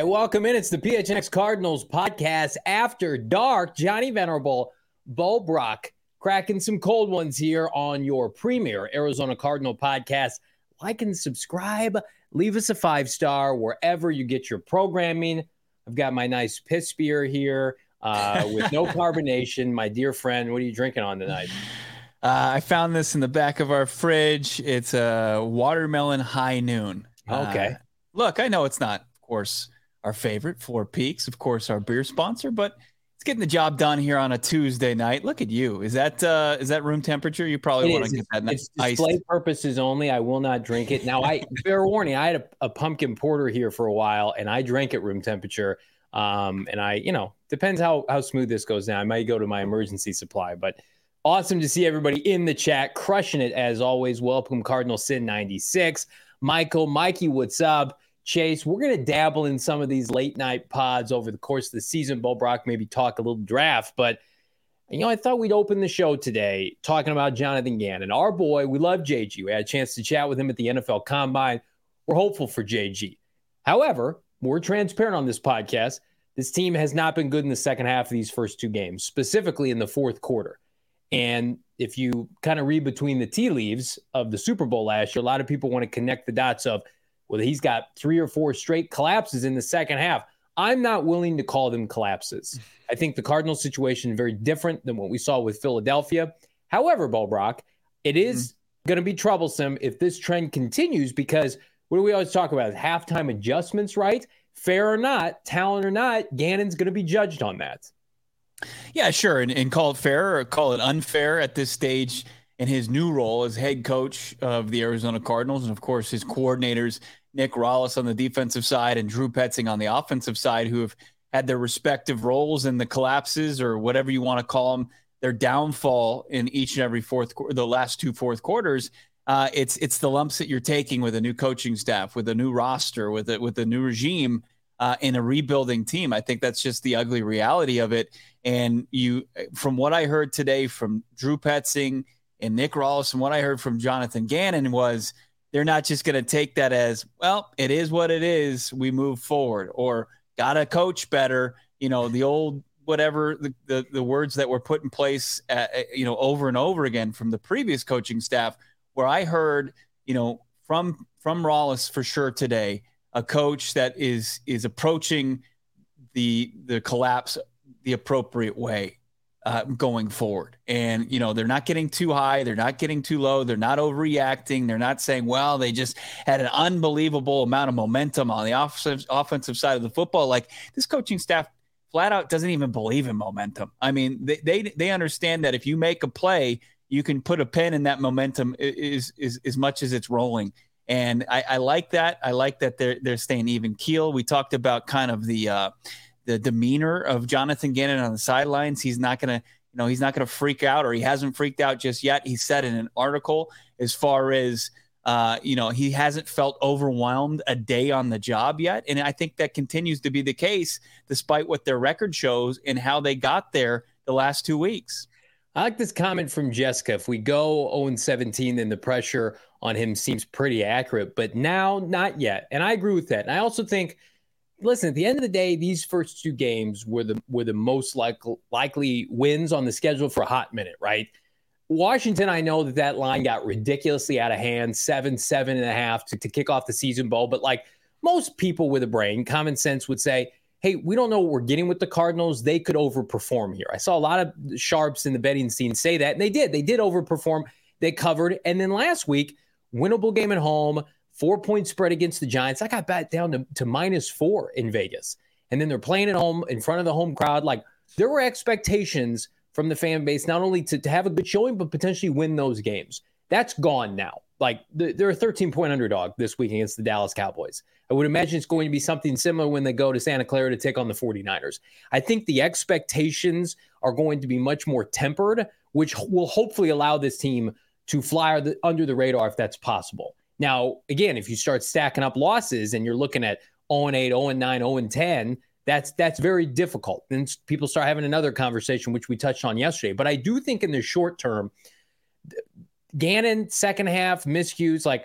welcome in. It's the PHNX Cardinals podcast after dark. Johnny Venerable, Bo Brock, cracking some cold ones here on your premier Arizona Cardinal podcast. Like and subscribe. Leave us a 5-star wherever you get your programming. I've got my nice piss beer here with no carbonation. My dear friend, what are you drinking on tonight? I found this in the back of our fridge. It's a watermelon high noon. Okay. Look, I know it's not, of course, our favorite, Four Peaks, of course, our beer sponsor, but it's getting the job done here on a Tuesday night. Look at you. Is that room temperature? You probably want to get that nice. It's display purposes only. I will not drink it. Now, fair warning, I had a pumpkin porter here for a while, and I drank at room temperature. And depends how smooth this goes down. I might go to my emergency supply, but awesome to see everybody in the chat, crushing it as always. Welcome, Cardinal Sin 96. Mikey, what's up? Chase, we're going to dabble in some of these late night pods over the course of the season. Bo Brock, maybe talk a little draft, but I thought we'd open the show today talking about Jonathan Gannon, our boy. We love JG. We had a chance to chat with him at the NFL Combine. We're hopeful for JG. However, we're transparent on this podcast. This team has not been good in the second half of these first two games, specifically in the fourth quarter. And if you kind of read between the tea leaves of the Super Bowl last year, a lot of people want to connect the dots of, well, he's got 3 or 4 straight collapses in the second half. I'm not willing to call them collapses. I think the Cardinals situation is very different than what we saw with Philadelphia. However, Bo Brock, it is going to be troublesome if this trend continues because what do we always talk about? Halftime adjustments, right? Fair or not, talent or not, Gannon's going to be judged on that. Yeah, sure. And call it fair or call it unfair at this stage in his new role as head coach of the Arizona Cardinals. And, of course, his coordinators, Nick Rallis on the defensive side and Drew Petzing on the offensive side, who have had their respective roles in the collapses or whatever you want to call them, their downfall in each and every the last 2 fourth quarters. It's the lumps that you're taking with a new coaching staff, with a new roster, with a new regime in a rebuilding team. I think that's just the ugly reality of it. And from what I heard today from Drew Petzing and Nick Rallis and what I heard from Jonathan Gannon was they're not just going to take that as, well, it is what it is. We move forward or got to coach better. The old whatever the words that were put in place, over and over again from the previous coaching staff, where I heard, from Rallis for sure today, a coach that is approaching the collapse the appropriate way going forward. And, they're not getting too high. They're not getting too low. They're not overreacting. They're not saying, well, they just had an unbelievable amount of momentum on the offensive side of the football. Like this coaching staff flat out doesn't even believe in momentum. I mean, they understand that if you make a play, you can put a pin in that momentum is as much as it's rolling. And I like that. I like that they're staying even keel. We talked about kind of the demeanor of Jonathan Gannon on the sidelines. He's not going to freak out, or he hasn't freaked out just yet. He said in an article as far as, he hasn't felt overwhelmed a day on the job yet. And I think that continues to be the case despite what their record shows and how they got there the last 2 weeks. I like this comment from Jessica. If we go 0-17, then the pressure on him seems pretty accurate, but now not yet. And I agree with that. And I also think, listen, at the end of the day, these first 2 games were the most likely wins on the schedule for a hot minute, right? Washington, I know that line got ridiculously out of hand, 7.5 to kick off the season, Bo. But like most people with a brain, common sense would say, hey, we don't know what we're getting with the Cardinals. They could overperform here. I saw a lot of sharps in the betting scene say that, and they did. They did overperform. They covered. And then last week, winnable game at home, 4-point spread against the Giants. I got back down to -4 in Vegas. And then they're playing at home in front of the home crowd. Like, there were expectations from the fan base, not only to have a good showing, but potentially win those games. That's gone now. Like, they're a 13-point underdog this week against the Dallas Cowboys. I would imagine it's going to be something similar when they go to Santa Clara to take on the 49ers. I think the expectations are going to be much more tempered, which will hopefully allow this team to fly under the radar if that's possible. Now, again, if you start stacking up losses and you're looking at 0-8, 0-9, 0-10, that's very difficult. Then people start having another conversation, which we touched on yesterday. But I do think in the short term, Gannon, second half, miscues, like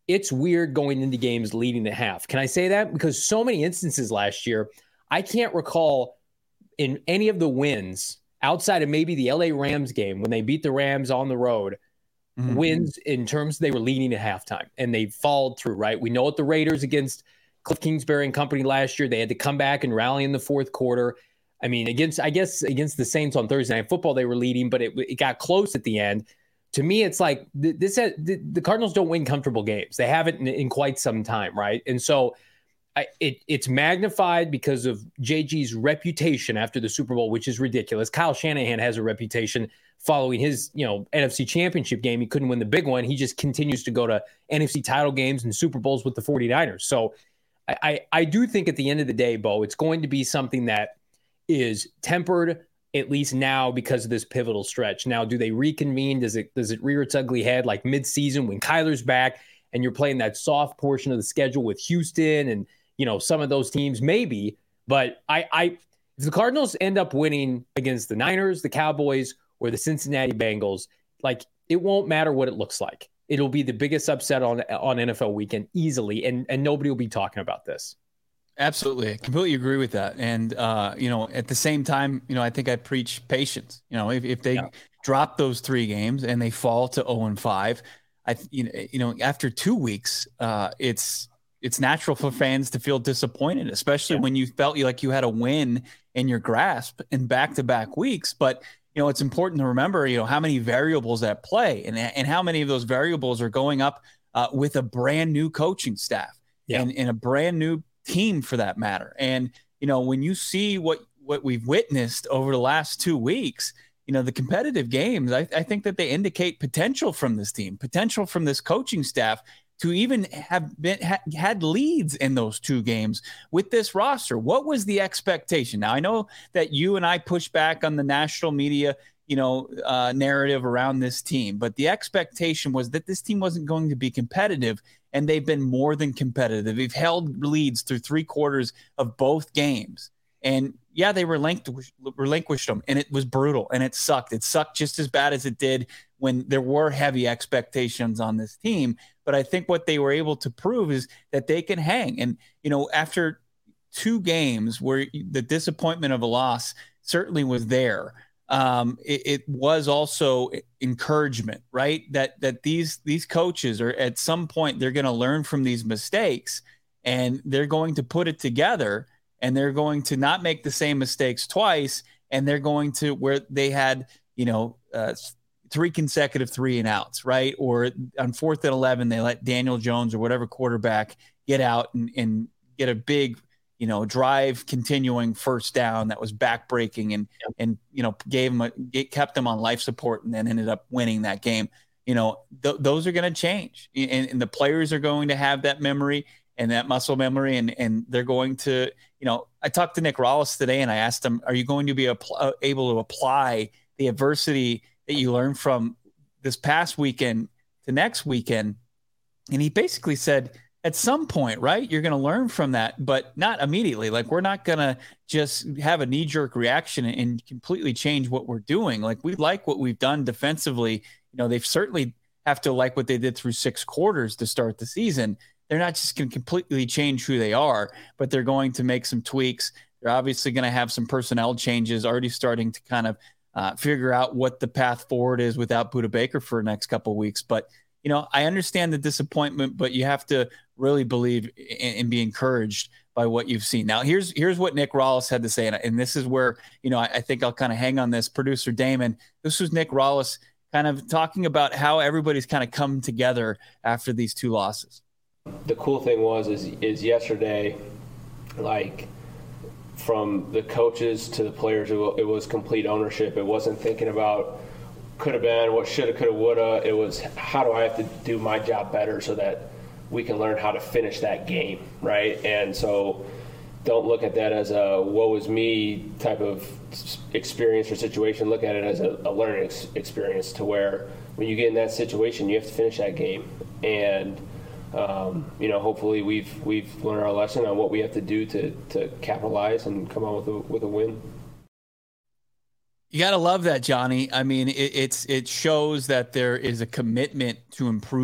it's weird going into games leading at half. Can I say that? Because so many instances last year, I can't recall in any of the wins outside of maybe the LA Rams game when they beat the Rams on the road, wins in terms they were leading at halftime and they followed through, right? We know what the Raiders against Cliff Kingsbury and company last year, they had to come back and rally in the fourth quarter. I mean, against the Saints on Thursday Night Football, they were leading, but it got close at the end. To me, it's like the Cardinals don't win comfortable games. They haven't in quite some time, right? And so it's magnified because of JG's reputation after the Super Bowl, which is ridiculous. Kyle Shanahan has a reputation following his, NFC Championship game. He couldn't win the big one. He just continues to go to NFC title games and Super Bowls with the 49ers. So I do think at the end of the day, Bo, it's going to be something that is tempered, at least now, because of this pivotal stretch. Now, do they reconvene? Does it rear its ugly head like midseason when Kyler's back and you're playing that soft portion of the schedule with Houston and some of those teams? Maybe. But if the Cardinals end up winning against the Niners, the Cowboys, or the Cincinnati Bengals, like, it won't matter what it looks like. It'll be the biggest upset on NFL weekend easily, and nobody will be talking about this. Absolutely. I completely agree with that. And, at the same time, I think I preach patience. If they drop those 3 games and they fall to 0-5, after 2 weeks, it's natural for fans to feel disappointed, especially when you felt like you had a win in your grasp in back-to-back weeks. But, it's important to remember, how many variables at play and how many of those variables are going up with a brand new coaching staff and a brand new team for that matter. And, when you see what we've witnessed over the last 2 weeks, the competitive games, I think that they indicate potential from this team, potential from this coaching staff to even have had leads in those 2 games with this roster. What was the expectation? Now, I know that you and I push back on the national media, narrative around this team, but the expectation was that this team wasn't going to be competitive, and they've been more than competitive. They've held leads through 3 quarters of both games. And they relinquished them, and it was brutal, and it sucked. It sucked just as bad as it did when there were heavy expectations on this team. But I think what they were able to prove is that they can hang. And, after 2 games where the disappointment of a loss certainly was there, it was also encouragement, right? That these coaches are at some point, they're going to learn from these mistakes, and they're going to put it together, and they're going to not make the same mistakes twice. And they're going to, where they had, 3 consecutive 3-and-outs, right? Or on 4th and 11, they let Daniel Jones or whatever quarterback get out and get a big, drive continuing first down that was backbreaking and kept them on life support, and then ended up winning that game. Those are going to change, and the players are going to have that memory and that muscle memory, and they're going to, I talked to Nick Rallis today, and I asked him, are you going to be able to apply the adversity that you learned from this past weekend to next weekend? And he basically said, at some point, right, you're going to learn from that, but not immediately. Like, we're not going to just have a knee-jerk reaction and completely change what we're doing. Like, we like what we've done defensively. They've certainly have to like what they did through 6 quarters to start the season. They're not just going to completely change who they are, but they're going to make some tweaks. They're obviously going to have some personnel changes, already starting to kind of figure out what the path forward is without Budda Baker for the next couple of weeks. But, I understand the disappointment, but you have to really believe and be encouraged by what you've seen. Now, here's what Nick Rallis had to say, and this is where, I think I'll kind of hang on this. Producer Damon, this was Nick Rallis kind of talking about how everybody's kind of come together after these 2 losses. The cool thing is yesterday, like, from the coaches to the players, it was complete ownership. It wasn't thinking about could have been, what should have, could have, would have. It was, how do I have to do my job better so that we can learn how to finish that game, right? And so don't look at that as a woe is me type of experience or situation. Look at it as a learning experience, to where when you get in that situation, you have to finish that game. And hopefully we've learned our lesson on what we have to do to capitalize and come out with a win. You got to love that, Johnny. I mean, it shows that there is a commitment to improving.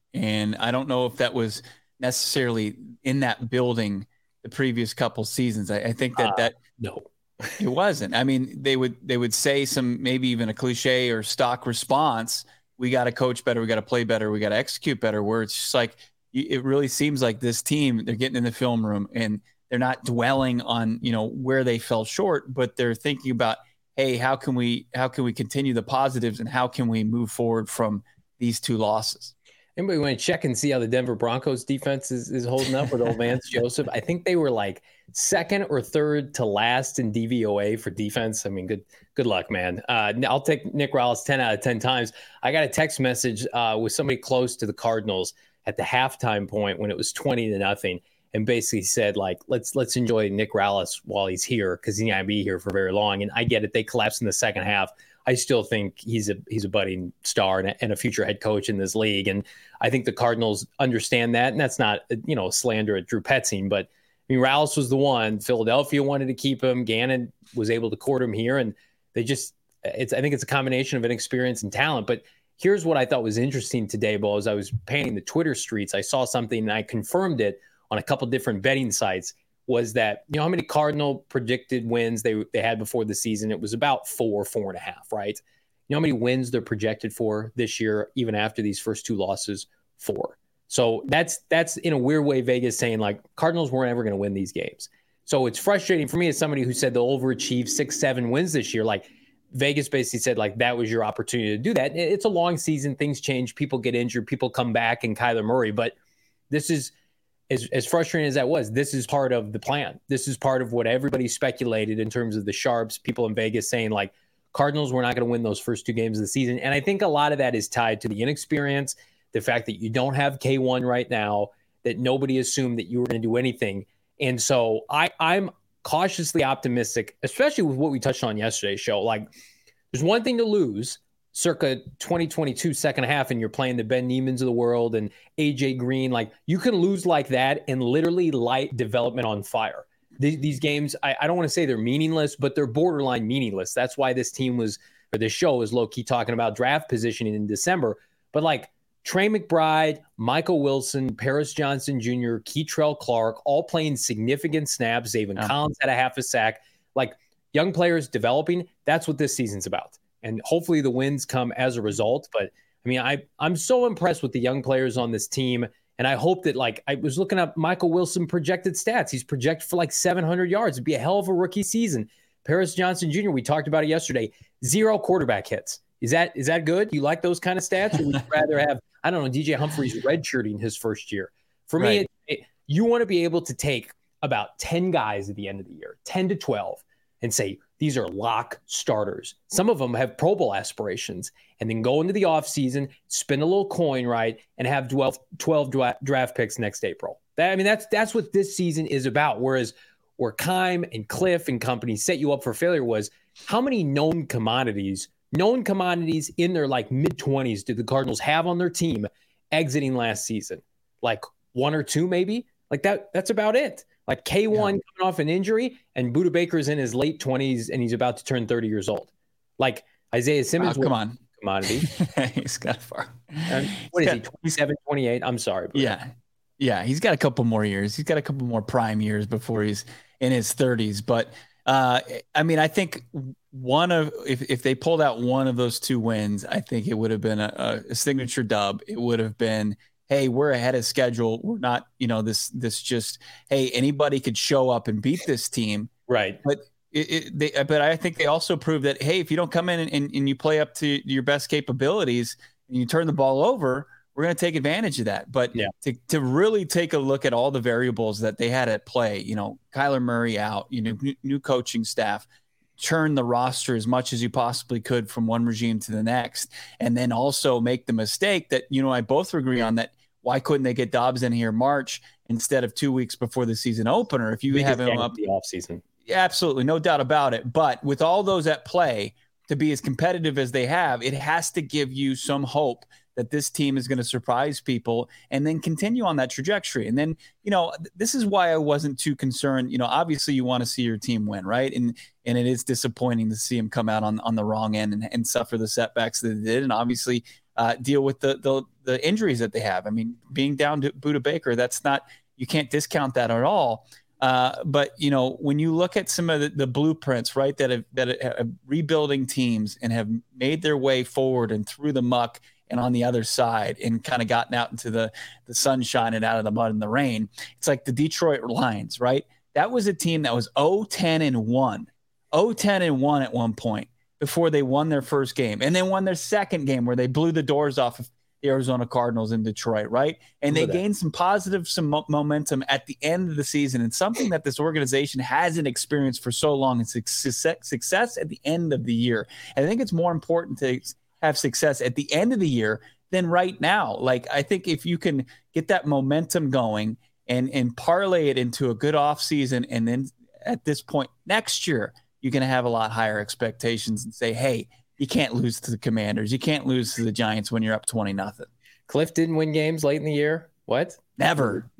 And I don't know if that was necessarily in that building the previous couple seasons. I think that no, it wasn't. I mean, they would say some, maybe even a cliche or stock response. We got to coach better. We got to play better. We got to execute better, where it's just like, it really seems like this team, they're getting in the film room and they're not dwelling on, where they fell short, but they're thinking about, hey, how can we continue the positives and how can we move forward from these two losses? Anybody want to check and see how the Denver Broncos defense is holding up with old Vance Joseph? I think they were like second or third to last in DVOA for defense. I mean, good luck, man. I'll take Nick Rallis 10 out of 10 times. I got a text message with somebody close to the Cardinals at the halftime point when it was 20-0, and basically said, like, let's enjoy Nick Rallis while he's here, because he's not going to be here for very long. And I get it. They collapsed in the second half. I still think he's a budding star and a future head coach in this league. And I think the Cardinals understand that. And that's not, slander at Drew Petzing, but I mean, Rallis was the one. Philadelphia wanted to keep him. Gannon was able to court him here. And I think it's a combination of inexperience and talent. But here's what I thought was interesting today, Bo. As I was painting the Twitter streets, I saw something and I confirmed it on a couple different betting sites. Was that, how many Cardinal predicted wins they had before the season? It was about 4.5, right? You know how many wins they're projected for this year, even after these first two losses? 4. So that's in a weird way Vegas saying, like, Cardinals weren't ever going to win these games. So it's frustrating for me as somebody who said they'll overachieve 6-7 wins this year. Like, Vegas basically said, like, that was your opportunity to do that. It's a long season. Things change. People get injured. People come back, and Kyler Murray. But this is, as frustrating as that was, this is part of the plan. This is part of what everybody speculated in terms of the sharps, people in Vegas saying, like, Cardinals were not going to win those first 2 games of the season. And I think a lot of that is tied to the inexperience, the fact that you don't have K1 right now, that nobody assumed that you were going to do anything. And so I'm cautiously optimistic, especially with what we touched on yesterday's show. Like, there's one thing to lose circa 2022 second half, and you're playing the Ben Niemans of the world and AJ Green. Like, you can lose like that and literally light development on fire. These games, I don't want to say they're meaningless, but they're borderline meaningless. That's why this show was low-key talking about draft positioning in December. But like, Trey McBride, Michael Wilson, Paris Johnson Jr., Keitrell Clark, all playing significant snaps. Zaven Collins had a half a sack. Like, young players developing, that's what this season's about. And hopefully the wins come as a result. But I mean, I'm so impressed with the young players on this team. And I hope that, like, I was looking up Michael Wilson projected stats. He's projected for like 700 yards. It'd be a hell of a rookie season. Paris Johnson Jr., we talked about it yesterday, 0 quarterback hits. Is that good? You like those kind of stats? Or would you rather have, I don't know, DJ Humphries redshirting his first year? For me, you want to be able to take about 10 guys at the end of the year, 10 to 12, and say, these are lock starters. Some of them have Pro Bowl aspirations, and then go into the offseason, spin a little coin, right, and have 12 draft picks next April. That's what this season is about. Whereas where Keim and Cliff and company set you up for failure was, how many known commodities in their like mid-20s did the Cardinals have on their team exiting last season? Like 1 or 2 maybe? Like that's about it. Like K1 coming off an injury, and Budda Baker's in his late 20s and he's about to turn 30 years old. Like Isaiah Simmons, come on, commodity. He's got far. What is he? 27, 28? I'm sorry. Bro. Yeah. He's got a couple more years. He's got a couple more prime years before he's in his 30s. But I mean, I think if they pulled out one of those 2 wins, I think it would have been a signature dub. It would have been, hey, we're ahead of schedule. We're not, this just, hey, anybody could show up and beat this team. Right. But but I think they also proved that, hey, if you don't come in and you play up to your best capabilities and you turn the ball over, we're going to take advantage of that. But to really take a look at all the variables that they had at play, Kyler Murray out, new coaching staff, churn the roster as much as you possibly could from one regime to the next, and then also make the mistake that, I both agree on, that why couldn't they get Dobbs in here March instead of 2 weeks before the season opener? If you have him up the offseason. Absolutely, no doubt about it. But with all those at play, to be as competitive as they have, it has to give you some hope that this team is going to surprise people and then continue on that trajectory. And then, this is why I wasn't too concerned. Obviously you want to see your team win, right? And it is disappointing to see them come out on the wrong end and suffer the setbacks that they did. And obviously deal with the the injuries that they have. I mean, being down to Budda Baker, you can't discount that at all. But when you look at some of the blueprints, right, that have rebuilding teams and have made their way forward and through the muck and on the other side and kind of gotten out into the sunshine and out of the mud and the rain, it's like the Detroit Lions, right? That was a team that was 0-10-1 at one point before they won their first game, and then won their second game where they blew the doors off of the Arizona Cardinals in Detroit, right? And they gained some momentum at the end of the season, and something that this organization hasn't experienced for so long is success at the end of the year. And I think it's more important to have success at the end of the year than right now. Like, I think if you can get that momentum going and parlay it into a good offseason, and then at this point next year, you're going to have a lot higher expectations and say, hey, you can't lose to the Commanders. You can't lose to the Giants when you're up 20-0. Cliff didn't win games late in the year. What? Never.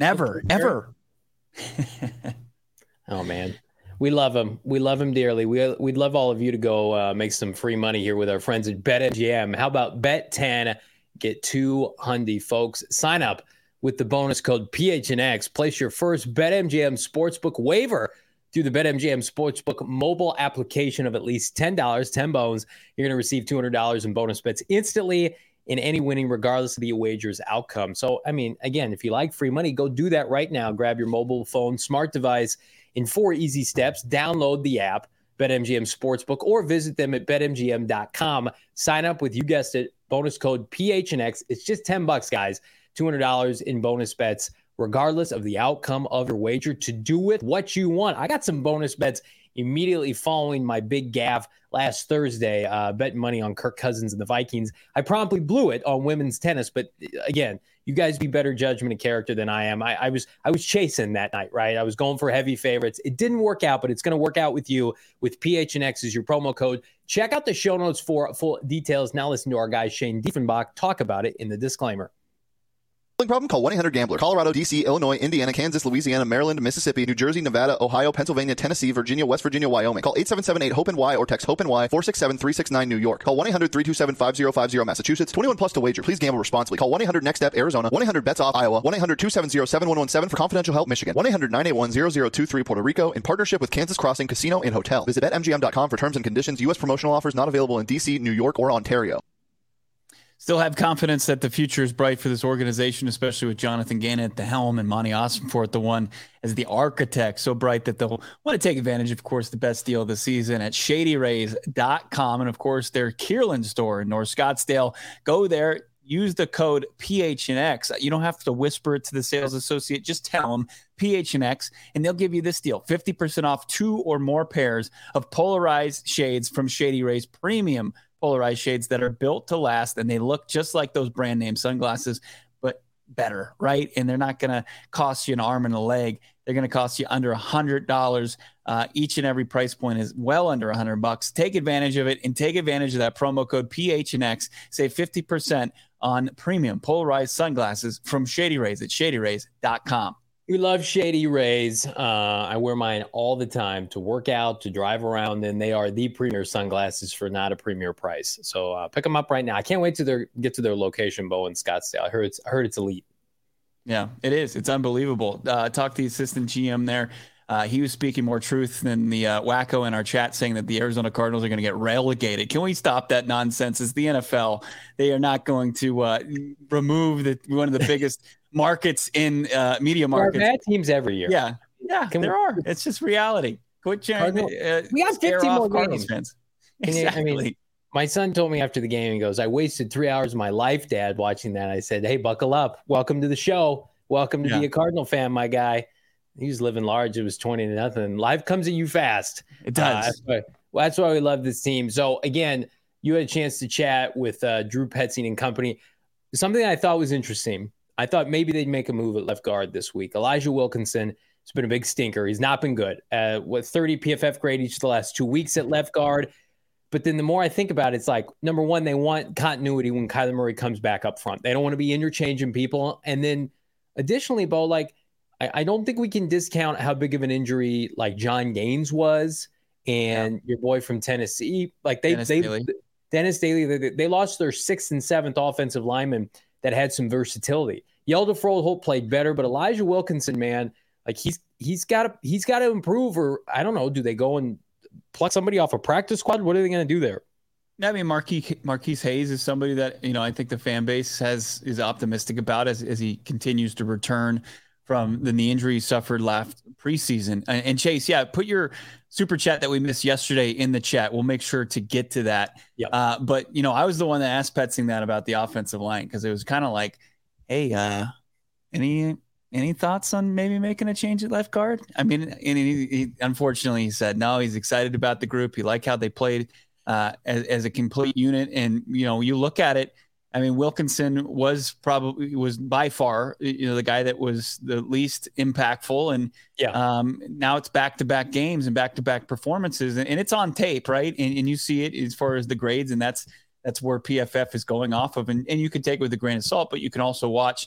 Oh, man. We love him. We love him dearly. We'd love all of you to go make some free money here with our friends at BetMGM. How about bet 10, get $200, folks. Sign up with the bonus code PHNX. Place your first BetMGM Sportsbook waiver through the BetMGM Sportsbook mobile application of at least $10, 10 bones. You're going to receive $200 in bonus bets instantly in any winning, regardless of the wager's outcome. So, I mean, again, if you like free money, go do that right now. Grab your mobile phone, smart device in 4 easy steps. Download the app, BetMGM Sportsbook, or visit them at betmgm.com. Sign up with, you guessed it, bonus code PHNX. It's just $10, guys. $200 in bonus bets, regardless of the outcome of your wager, to do with what you want. I got some bonus bets immediately following my big gaffe last Thursday, betting money on Kirk Cousins and the Vikings. I promptly blew it on women's tennis, but again, you guys be better judgment of character than I am. I was chasing that night, right? I was going for heavy favorites. It didn't work out, but it's going to work out with you with PHNX as your promo code. Check out the show notes for full details. Now listen to our guy Shane Diefenbach talk about it in the disclaimer. Problem? Call 1-800-GAMBLER. Colorado, D.C., Illinois, Indiana, Kansas, Louisiana, Maryland, Mississippi, New Jersey, Nevada, Ohio, Pennsylvania, Tennessee, Virginia, West Virginia, Wyoming. Call 877-8-HOPE-NY or text HOPE-NY 467-369 New York. Call 1-800-327-5050 Massachusetts. 21 plus to wager. Please gamble responsibly. Call 1-800-NEXT-STEP Arizona. 1-800-BETS-OFF Iowa. 1-800-270-7117 for confidential help Michigan. 1-800-981-0023 Puerto Rico in partnership with Kansas Crossing Casino and Hotel. Visit BetMGM.com for terms and conditions. U.S. promotional offers not available in D.C., New York, or Ontario. Still have confidence that the future is bright for this organization, especially with Jonathan Gannon at the helm and Monty Ossenfort, the one as the architect, so bright that they'll want to take advantage, of course, the best deal of the season at ShadyRays.com. And, of course, their Kierland store in North Scottsdale. Go there. Use the code PHNX. You don't have to whisper it to the sales associate. Just tell them PHNX, and they'll give you this deal. 50% off 2 or more pairs of polarized shades from Shady Rays, premium polarized shades that are built to last, and they look just like those brand name sunglasses, but better, right? And they're not going to cost you an arm and a leg. They're going to cost you under $100. Each and every price point is well under $100. Take advantage of it, and take advantage of that promo code PHNX. Save 50% on premium polarized sunglasses from Shady Rays at ShadyRays.com. We love Shady Rays. I wear mine all the time to work out, to drive around, and they are the premier sunglasses for not a premier price. So pick them up right now. I can't wait to get to their location, Bo, in Scottsdale. I heard it's elite. Yeah, it is. It's unbelievable. Talk to the assistant GM there. He was speaking more truth than the wacko in our chat, saying that the Arizona Cardinals are going to get relegated. Can we stop that nonsense? It's the NFL. They are not going to remove one of the biggest markets in media markets. There are bad teams every year. Yeah, there are. It's just reality. Quit sharing. We got 15 more Cardinals games. Fans. Exactly. I mean, my son told me after the game, he goes, "I wasted 3 hours of my life, Dad, watching that." I said, "Hey, buckle up. Welcome to the show. Welcome to be a Cardinal fan, my guy." He was living large. It was 20-0. Life comes at you fast. It does. That's why we love this team. So, again, you had a chance to chat with Drew Petzing and company. Something I thought was interesting. I thought maybe they'd make a move at left guard this week. Elijah Wilkinson has been a big stinker. He's not been good. 30 PFF grade each of the last 2 weeks at left guard. But then the more I think about it, it's like, number one, they want continuity when Kyler Murray comes back up front. They don't want to be interchanging people. And then additionally, Bo, like, I don't think we can discount how big of an injury like John Gaines was and your boy from Tennessee. Like Dennis Daly, they lost their 6th and 7th offensive linemen that had some versatility. Yelder Froholt played better, but Elijah Wilkinson, man, like he's got to improve. Or I don't know, do they go and pluck somebody off a practice squad? What are they going to do there? I mean, Marquise Hayes is somebody that, I think the fan base is optimistic about as he continues to return from the knee injury he suffered last preseason. And Chase, put your super chat that we missed yesterday in the chat. We'll make sure to get to that. Yep. But, I was the one that asked Petsing that about the offensive line, because it was kind of like, hey, any thoughts on maybe making a change at left guard? I mean, and he unfortunately, he said, no, he's excited about the group. He liked how they played as a complete unit. And, you look at it, I mean, Wilkinson was by far, the guy that was the least impactful. And now it's back-to-back games and back-to-back performances, and it's on tape, right? And you see it as far as the grades, and that's where PFF is going off of. And you can take it with a grain of salt, but you can also watch,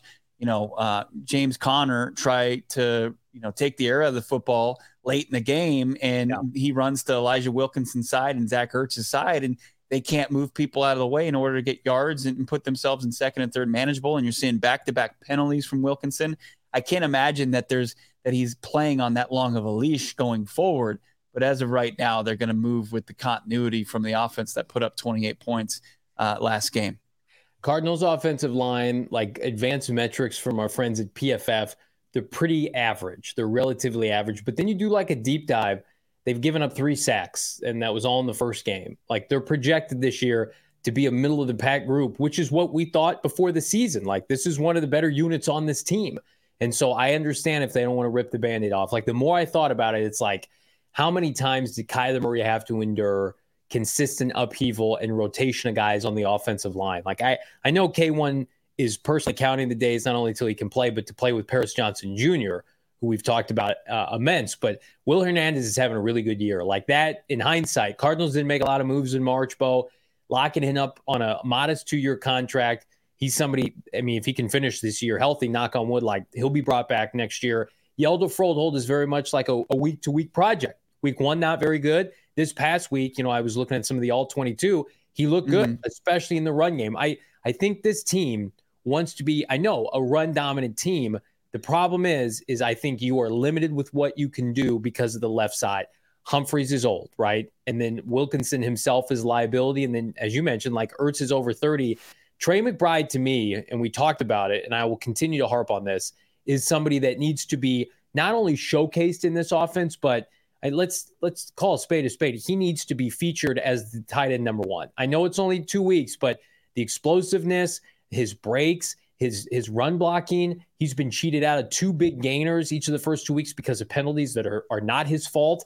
James Conner try to, take the air out of the football late in the game, and he runs to Elijah Wilkinson's side and Zach Ertz's side, and they can't move people out of the way in order to get yards and put themselves in second and third manageable. And you're seeing back-to-back penalties from Wilkinson. I can't imagine that he's playing on that long of a leash going forward. But as of right now, they're going to move with the continuity from the offense that put up 28 points last game. Cardinals offensive line, like advanced metrics from our friends at PFF, they're pretty average. They're relatively average. But then you do like a deep dive. They've given up 3 sacks, and that was all in the first game. Like, they're projected this year to be a middle-of-the-pack group, which is what we thought before the season. Like, this is one of the better units on this team. And so I understand if they don't want to rip the Band-Aid off. Like, the more I thought about it, it's like, how many times did Kyler Murray have to endure consistent upheaval and rotation of guys on the offensive line? Like, I know K1 is personally counting the days not only till he can play, but to play with Paris Johnson Jr., who we've talked about immense, but Will Hernandez is having a really good year. Like that, in hindsight, Cardinals didn't make a lot of moves in March, Bo, locking him up on a modest 2-year contract. He's somebody, I mean, if he can finish this year healthy, knock on wood, like he'll be brought back next year. Yelder Froholt is very much like a week-to-week project. Week 1, not very good. This past week, I was looking at some of the all-22. He looked good, especially in the run game. I think this team wants to be, a run-dominant team. The problem is I think you are limited with what you can do because of the left side. Humphreys is old, right? And then Wilkinson himself is liability. And then, as you mentioned, like Ertz is over 30. Trey McBride, to me, and we talked about it, and I will continue to harp on this, is somebody that needs to be not only showcased in this offense, but let's call a spade a spade. He needs to be featured as the tight end number 1. I know it's only 2 weeks, but the explosiveness, his breaks, his run blocking, he's been cheated out of 2 big gainers each of the first 2 weeks because of penalties that are not his fault.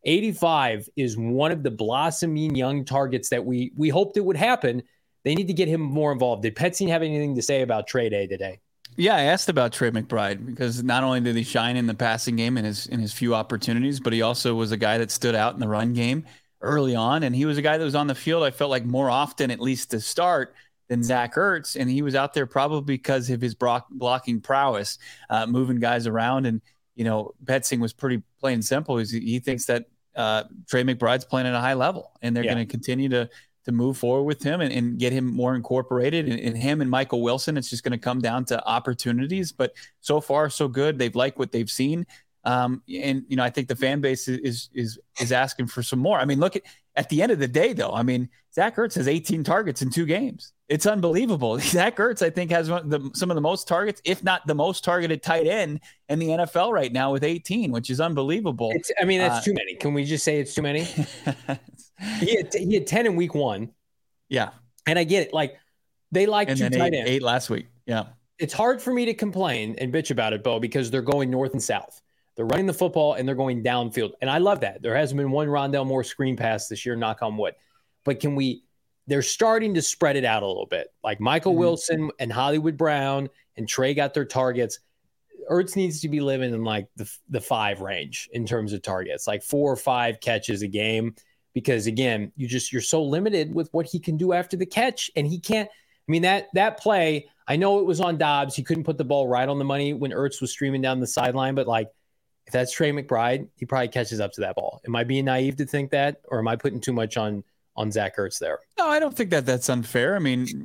85 is one of the blossoming young targets that we hoped it would happen. They need to get him more involved. Did Petsy have anything to say about Trey Day today? Yeah, I asked about Trey McBride because not only did he shine in the passing game in his few opportunities, but he also was a guy that stood out in the run game early on. And he was a guy that was on the field, I felt like, more often, at least to start, than Zach Ertz, and he was out there probably because of his blocking prowess, moving guys around. And Petsing was pretty plain and simple. He thinks that Trey McBride's playing at a high level, and they're going to continue to move forward with him and get him more incorporated. And him and Michael Wilson, it's just going to come down to opportunities. But so far, so good. They've liked what they've seen. And I think the fan base is asking for some more. I mean, look at the end of the day, though. I mean, Zach Ertz has 18 targets in 2 games. It's unbelievable. Zach Ertz, I think, has some of the most targets, if not the most targeted tight end in the NFL right now with 18, which is unbelievable. That's too many. Can we just say it's too many? He had 10 in week 1. Yeah. And I get it. Like, they like and 2 tight ends. 8 last week. Yeah. It's hard for me to complain and bitch about it, Bo, because they're going north and south. They're running the football and they're going downfield. And I love that. There hasn't been one Rondale Moore screen pass this year, knock on wood. But they're starting to spread it out a little bit. Like Michael Wilson and Hollywood Brown and Trey got their targets. Ertz needs to be living in like the 5 range in terms of targets, like 4 or 5 catches a game. Because again, you're so limited with what he can do after the catch. And he can't, that play, I know it was on Dobbs. He couldn't put the ball right on the money when Ertz was streaming down the sideline, but like, if that's Trey McBride, he probably catches up to that ball. Am I being naive to think that, or am I putting too much on Zach Ertz there? No, I don't think that's unfair. I mean,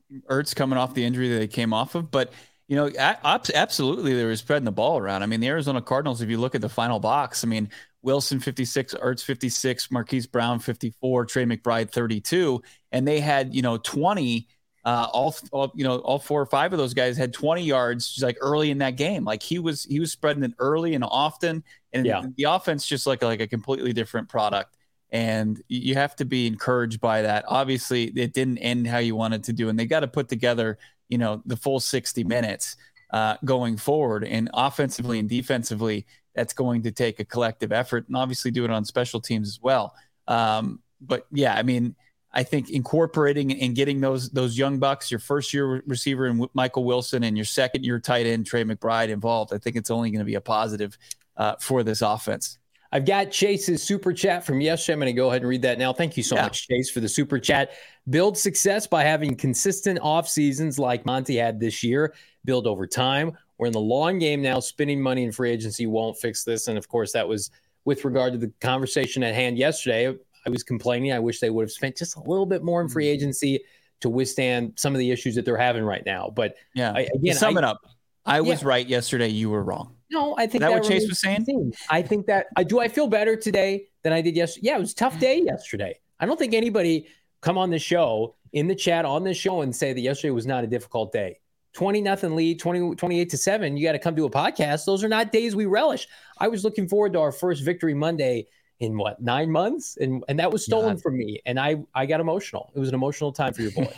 Ertz coming off the injury that they came off of. But, absolutely they were spreading the ball around. I mean, the Arizona Cardinals, if you look at the final box, I mean, Wilson 56, Ertz 56, Marquise Brown 54, Trey McBride 32, and they had 20. All 4 or 5 of those guys had 20 yards like early in that game. Like he was spreading it early and often, and the offense just like a completely different product. And you have to be encouraged by that. Obviously, it didn't end how you wanted to do, and they got to put together the full 60 minutes going forward. And offensively and defensively, that's going to take a collective effort, and obviously do it on special teams as well. But yeah, I mean, I think incorporating and getting those young bucks, your first-year receiver and Michael Wilson, and your second-year tight end Trey McBride involved, I think it's only going to be a positive for this offense. I've got Chase's super chat from yesterday. I'm going to go ahead and read that now. Thank you so much, Chase, for the super chat. Build success by having consistent off seasons like Monty had this year. Build over time. We're in the long game now. Spending money in free agency won't fix this. And, of course, that was with regard to the conversation at hand yesterday. I was complaining. I wish they would have spent just a little bit more in free agency to withstand some of the issues that they're having right now. But to sum it up, I was right yesterday. You were wrong. No, I think that what Chase was saying. I think that I feel better today than I did yesterday. Yeah, it was a tough day yesterday. I don't think anybody come on the show in the chat on this show and say that yesterday was not a difficult day. 20-0 lead, 28-7. You got to come to a podcast. Those are not days we relish. I was looking forward to our first Victory Monday in 9 months, and that was stolen from me, and I got emotional. It was an emotional time for your boy.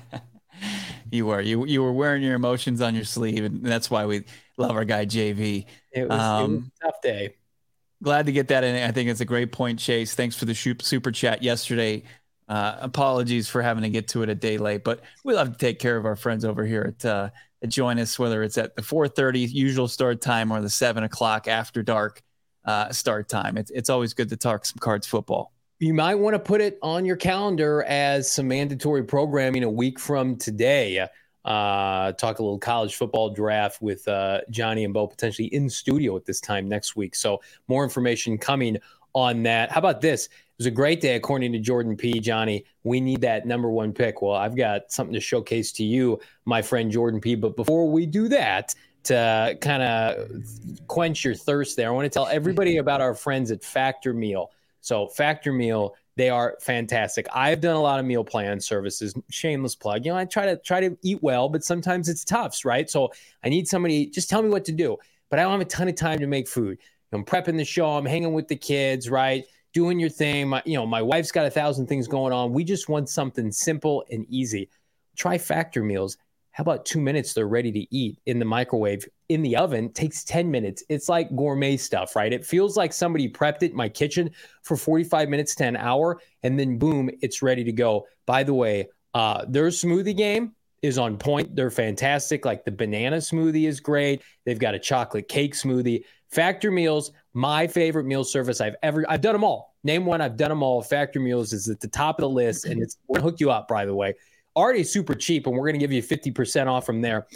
You were wearing your emotions on your sleeve, and that's why we love our guy JV. It was a tough day. Glad to get that in. I think it's a great point, Chase. Thanks for the super chat yesterday. Apologies for having to get to it a day late, but we love to take care of our friends over here at Join Us, whether it's at the 4:30 usual start time or the 7 o'clock after dark start time. It's always good to talk some Cards football. You might want to put it on your calendar as some mandatory programming a week from today. Talk a little college football draft with Johnny and Bo potentially in studio at this time next week. So more information coming on that. How about this? It was a great day, according to Jordan P. Johnny, we need that number 1 pick. Well, I've got something to showcase to you, my friend Jordan P. But before we do that, to kind of quench your thirst there, I want to tell everybody about our friends at Factor Meal. So Factor Meal, they are fantastic. I've done a lot of meal plan services. Shameless plug. I try to eat well, but sometimes it's tough, right? So I need somebody, just tell me what to do. But I don't have a ton of time to make food. I'm prepping the show. I'm hanging with the kids, right? Doing your thing. My wife's got 1,000 things going on. We just want something simple and easy. Try Factor Meals. How about 2 minutes? They're ready to eat in the microwave. In the oven takes 10 minutes. It's like gourmet stuff, right? It feels like somebody prepped it in my kitchen for 45 minutes to an hour, and then boom, it's ready to go. By the way, their smoothie game is on point. They're fantastic. Like the banana smoothie is great. They've got a chocolate cake smoothie. Factor Meals, my favorite meal service I've done them all. Name one, I've done them all. Factor Meals is at the top of the list, and we're gonna hook you up, by the way. Already super cheap, and we're going to give you 50% off from there.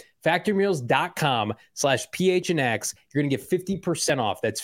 Factormeals.com/PHNX. You're going to get 50% off. That's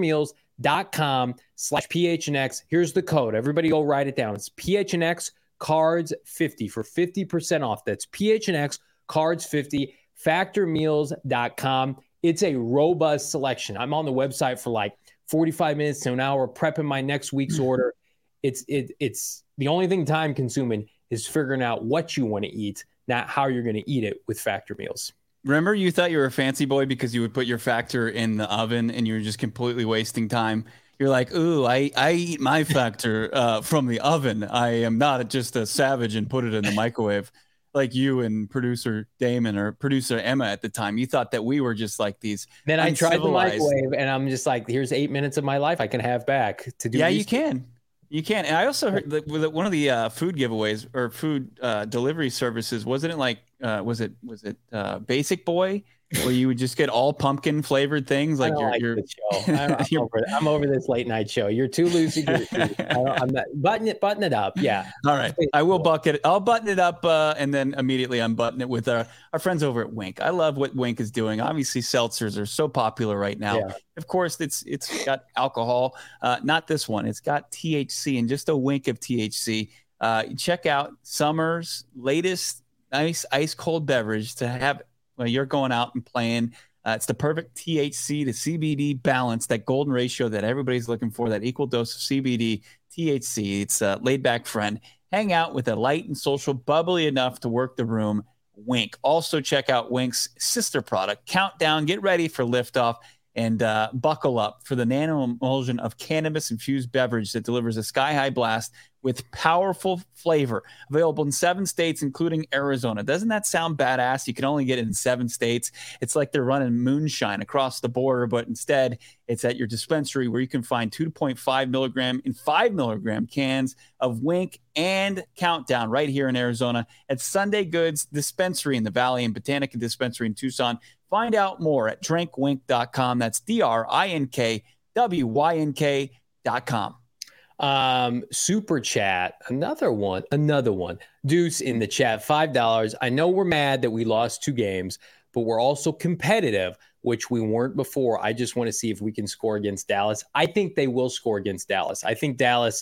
Factormeals.com/PHNX. Here's the code. Everybody go write it down. It's PHNX Cards 50 for 50% off. That's PHNX Cards 50. Factormeals.com. It's a robust selection. I'm on the website for like 45 minutes to an hour prepping my next week's order. It's the only thing time consuming is figuring out what you want to eat, not how you're going to eat it with Factor Meals. Remember, you thought you were a fancy boy because you would put your Factor in the oven and you were just completely wasting time. You're like, ooh, I eat my Factor from the oven. I am not just a savage and put it in the microwave like you and producer Damon or producer Emma at the time. You thought that we were just like these. Then I tried the microwave and I'm just like, here's 8 minutes of my life I can have back to do. Yeah, you can. You can. And I also heard that with one of the food giveaways or food delivery services, wasn't it like, was it Basic Boy, where you would just get all pumpkin flavored things? Like I'm over this late night show. You're too loosey goosey. I'm not button it up. Yeah. All right. I will I'll button it up and then immediately unbutton it with our friends over at Wink. I love what Wink is doing. Obviously, seltzers are so popular right now. Yeah. Of course, it's got alcohol. Not this one. It's got THC and just a wink of THC. Check out Summer's latest nice ice cold beverage to have when you're going out and playing. It's the perfect THC to CBD balance, that golden ratio that everybody's looking for, that equal dose of CBD, THC. It's a laid back friend. Hang out with a light and social, bubbly enough to work the room. Wink. Also check out Wink's sister product, Countdown. Get ready for liftoff and buckle up for the nano emulsion of cannabis-infused beverage that delivers a sky-high blast with powerful flavor. Available in 7 states, including Arizona. Doesn't that sound badass? You can only get it in 7 states. It's like they're running moonshine across the border, but instead it's at your dispensary where you can find 2.5 milligram and 5 milligram cans of Wink and Countdown right here in Arizona at Sunday Goods Dispensary in the Valley and Botanica Dispensary in Tucson. Find out more at drinkwink.com. That's DRINKWYNK.com. Super chat. Another one. Deuce in the chat, $5. I know we're mad that we lost 2 games, but we're also competitive, which we weren't before. I just want to see if we can score against Dallas. I think they will score against Dallas. I think Dallas,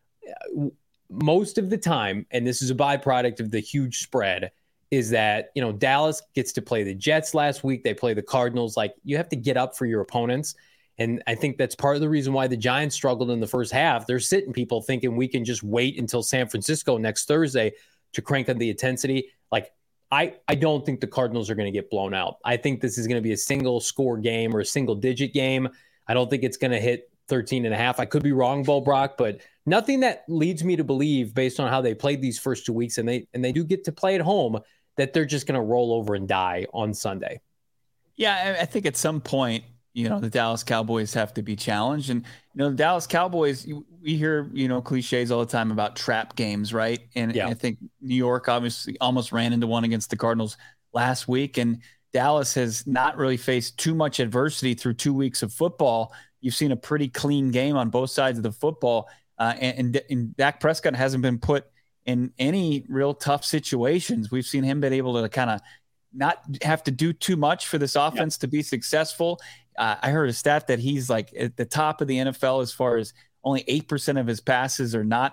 most of the time, and this is a byproduct of the huge spread, is that, Dallas gets to play the Jets last week. They play the Cardinals. Like, you have to get up for your opponents. And I think that's part of the reason why the Giants struggled in the first half. They're sitting people thinking we can just wait until San Francisco next Thursday to crank up the intensity. Like, I don't think the Cardinals are going to get blown out. I think this is going to be a single score game or a single digit game. I don't think it's going to hit 13.5. I could be wrong, Bo Brock, but nothing that leads me to believe, based on how they played these first 2 weeks, and they do get to play at home, that they're just going to roll over and die on Sunday. Yeah, I think at some point, the Dallas Cowboys have to be challenged. And, the Dallas Cowboys, we hear, cliches all the time about trap games, right? And I think New York obviously almost ran into one against the Cardinals last week. And Dallas has not really faced too much adversity through 2 weeks of football. You've seen a pretty clean game on both sides of the football. And Dak Prescott hasn't been put in any real tough situations. We've seen him been able to kind of not have to do too much for this offense to be successful. I heard a stat that he's like at the top of the NFL as far as only 8% of his passes are not,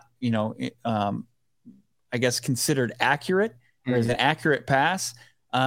I guess considered accurate or as an accurate pass.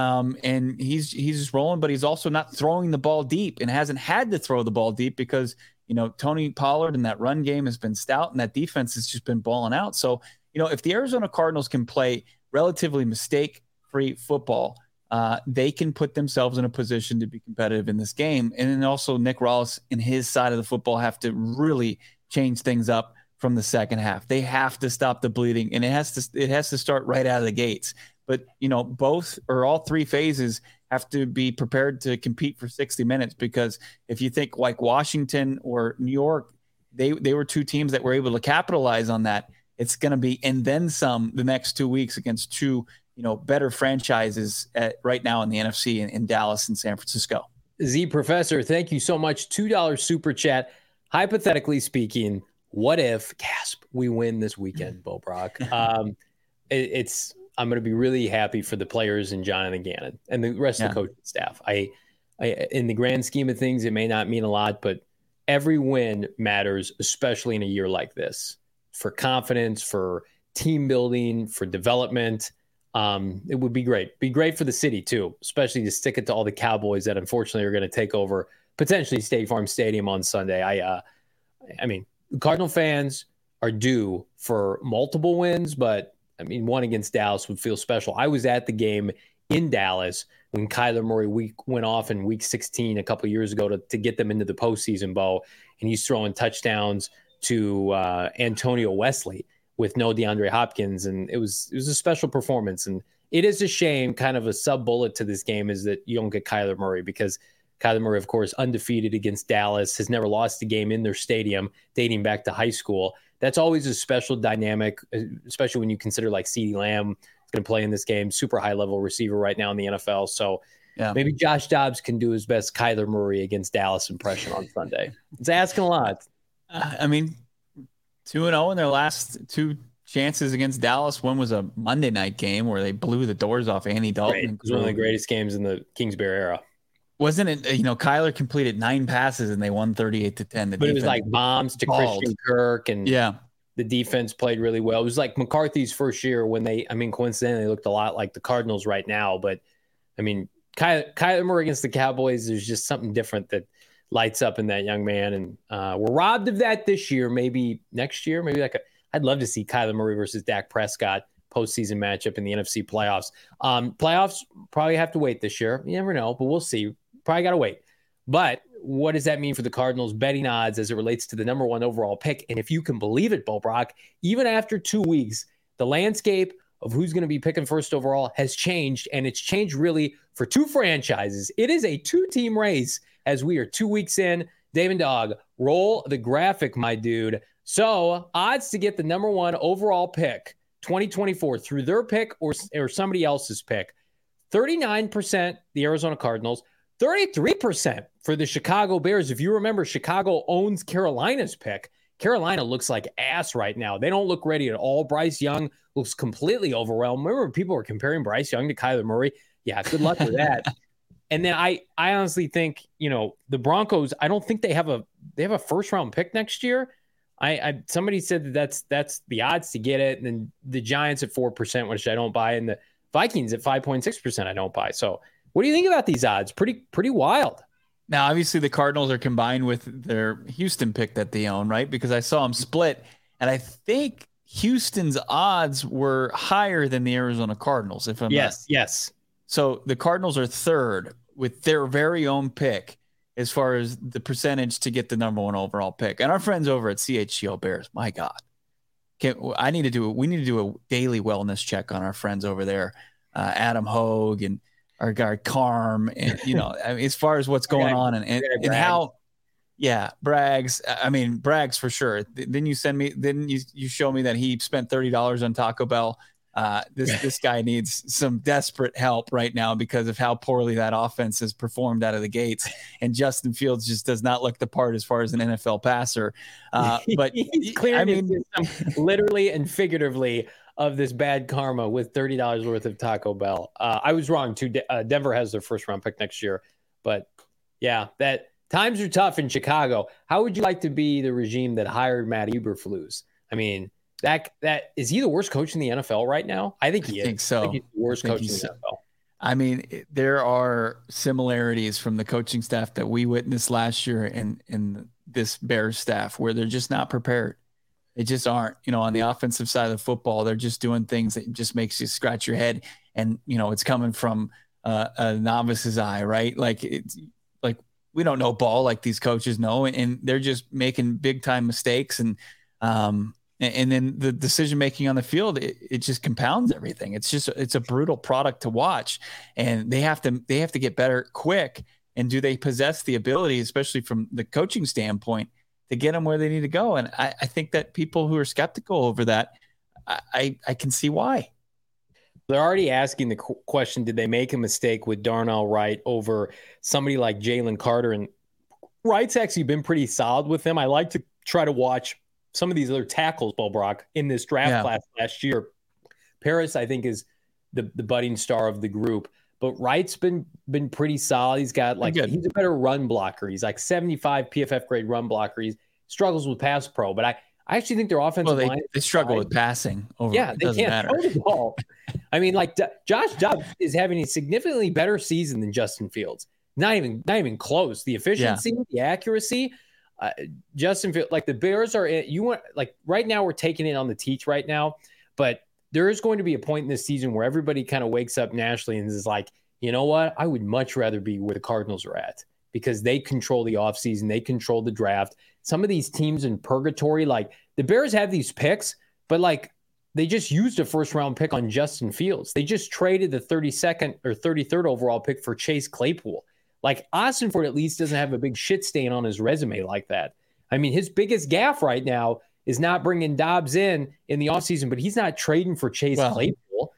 And he's just rolling, but he's also not throwing the ball deep and hasn't had to throw the ball deep because, Tony Pollard and that run game has been stout and that defense has just been balling out. So, if the Arizona Cardinals can play relatively mistake-free football, they can put themselves in a position to be competitive in this game. And then also Nick Rallis and his side of the football have to really change things up from the second half. They have to stop the bleeding, and it has to start right out of the gates. But, both or all 3 phases have to be prepared to compete for 60 minutes, because if you think like Washington or New York, they were 2 teams that were able to capitalize on that. It's going to be, and then some, the next 2 weeks against 2 better franchises right now in the NFC in Dallas and San Francisco. Z Professor, thank you so much. $2 super chat. Hypothetically speaking, what if, gasp, we win this weekend, Bo Brock? I'm going to be really happy for the players and Jonathan Gannon and the rest of the coaching staff. I, in the grand scheme of things, it may not mean a lot, but every win matters, especially in a year like this, for confidence, for team building, for development. It would be great. Be great for the city too, especially to stick it to all the Cowboys that unfortunately are going to take over potentially State Farm Stadium on Sunday. I mean, Cardinal fans are due for multiple wins, but I mean, one against Dallas would feel special. I was at the game in Dallas when Kyler Murray went off in week 16 a couple of years ago to get them into the postseason, Bo, and he's throwing touchdowns to Antonio Wesley with no DeAndre Hopkins, and it was a special performance. And it is a shame, kind of a sub-bullet to this game, is that you don't get Kyler Murray, because Kyler Murray, of course, undefeated against Dallas, has never lost a game in their stadium dating back to high school. That's always a special dynamic, especially when you consider like CeeDee Lamb is going to play in this game, super high-level receiver right now in the NFL. So maybe Josh Dobbs can do his best Kyler Murray against Dallas impression on Sunday. It's asking a lot. I mean, 2-0 in their last 2 chances against Dallas. One was a Monday night game where they blew the doors off Andy Dalton. It was one of the greatest games in the Kingsbury era. Wasn't it? Kyler completed 9 passes and they won 38-10. But it was like bombs to Christian Kirk and The defense played really well. It was like McCarthy's first year when coincidentally, they looked a lot like the Cardinals right now. But, I mean, Kyler Murray against the Cowboys, there's just something different that lights up in that young man. And we're robbed of that this year. Maybe next year, I'd love to see Kyler Murray versus Dak Prescott postseason matchup in the NFC playoffs. Playoffs probably have to wait this year. You never know, but we'll see. Probably got to wait. But what does that mean for the Cardinals betting odds as it relates to the number 1 overall pick? And if you can believe it, Bo Brock, even after 2 weeks, the landscape of who's going to be picking first overall has changed, and it's changed really for 2 franchises. It is a 2-team race as we are 2 weeks in. Damon Dog, roll the graphic, my dude. So odds to get the number 1 overall pick 2024 through their pick or somebody else's pick. 39% the Arizona Cardinals, 33% for the Chicago Bears. If you remember, Chicago owns Carolina's pick. Carolina looks like ass right now. They don't look ready at all. Bryce Young looks completely overwhelmed. Remember, people were comparing Bryce Young to Kyler Murray. Yeah, good luck with that. And then I honestly think, the Broncos, I don't think they have a first-round pick next year. Somebody said that's the odds to get it. And then the Giants at 4%, which I don't buy, and the Vikings at 5.6%, I don't buy. So what do you think about these odds? Pretty wild. Now, obviously, the Cardinals are combined with their Houston pick that they own, right? Because I saw them split, and I think Houston's odds were higher than the Arizona Cardinals. Yes. So the Cardinals are third with their very own pick as far as the percentage to get the number 1 overall pick. And our friends over at CHGO Bears, my God, we need to do a daily wellness check on our friends over there, Adam Hogue and our guy Carm, and as far as what's going on and how, Braggs for sure. Didn't you show me that he spent $30 on Taco Bell? This guy needs some desperate help right now because of how poorly that offense has performed out of the gates. And Justin Fields just does not look the part as far as an NFL passer. But he's clearing literally and figuratively of this bad karma with $30 worth of Taco Bell. I was wrong too. Denver has their first round pick next year, but yeah, that times are tough in Chicago. How would you like to be the regime that hired Matt Eberflus? I mean, that is he the worst coach in the NFL right now? I think he is. Think so. I think he's the worst coach in the NFL. I mean, there are similarities from the coaching staff that we witnessed last year in this Bears staff where they're just not prepared. They just aren't. On the offensive side of the football, they're just doing things that just makes you scratch your head. And, it's coming from a novice's eye, right? Like we don't know ball like these coaches know, and they're just making big time mistakes. And then the decision-making on the field, it just compounds everything. It's a brutal product to watch, and they have to get better quick. And do they possess the ability, especially from the coaching standpoint, to get them where they need to go? And I think that people who are skeptical over that, I can see why. They're already asking the question, did they make a mistake with Darnell Wright over somebody like Jalen Carter? And Wright's actually been pretty solid with them. I like to try to watch some of these other tackles, Bo Brock, in this draft class last year. Paris, I think, is the budding star of the group. But Wright's been pretty solid. He's got he's a better run blocker. He's like 75 PFF grade run blocker. He struggles with pass pro. But I actually think their offensive line. They struggle with passing. They can't throw the ball. I mean, Josh Dobbs is having a significantly better season than Justin Fields. Not even close. The efficiency, the accuracy. Justin Fields, the Bears are right now we're taking it on the teeth right now, but there is going to be a point in this season where everybody kind of wakes up nationally and is like, you know what? I would much rather be where the Cardinals are at because they control the offseason. They control the draft. Some of these teams in purgatory, the Bears have these picks, but they just used a first round pick on Justin Fields. They just traded the 32nd or 33rd overall pick for Chase Claypool. Austin Ford at least doesn't have a big shit stain on his resume like that. I mean, his biggest gaffe right now is not bringing Dobbs in the offseason, but he's not trading for Chase Claypool.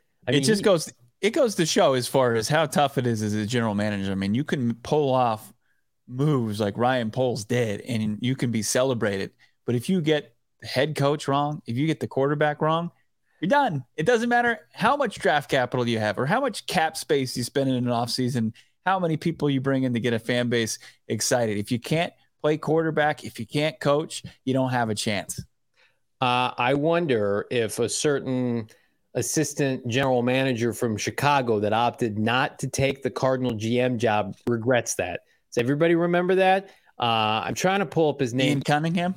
It goes to show as far as how tough it is as a general manager. I mean, you can pull off moves like Ryan Poles did, and you can be celebrated. But if you get the head coach wrong, if you get the quarterback wrong, you're done. It doesn't matter how much draft capital you have or how much cap space you spend in an offseason, how many people you bring in to get a fan base excited. If you can't play quarterback, if you can't coach, you don't have a chance. I wonder if a certain assistant general manager from Chicago that opted not to take the Cardinal GM job regrets that. Does everybody remember that? I'm trying to pull up his name. Ian Cunningham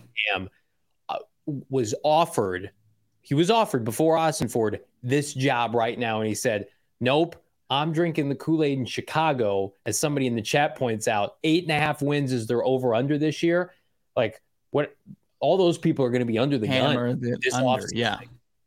was offered. He was offered before Ossenford this job right now, and he said, "Nope, I'm drinking the Kool-Aid in Chicago." As somebody in the chat points out, 8.5 wins is their over/under this year. Like, what? All those people are going to be under the gun this offseason. Yeah.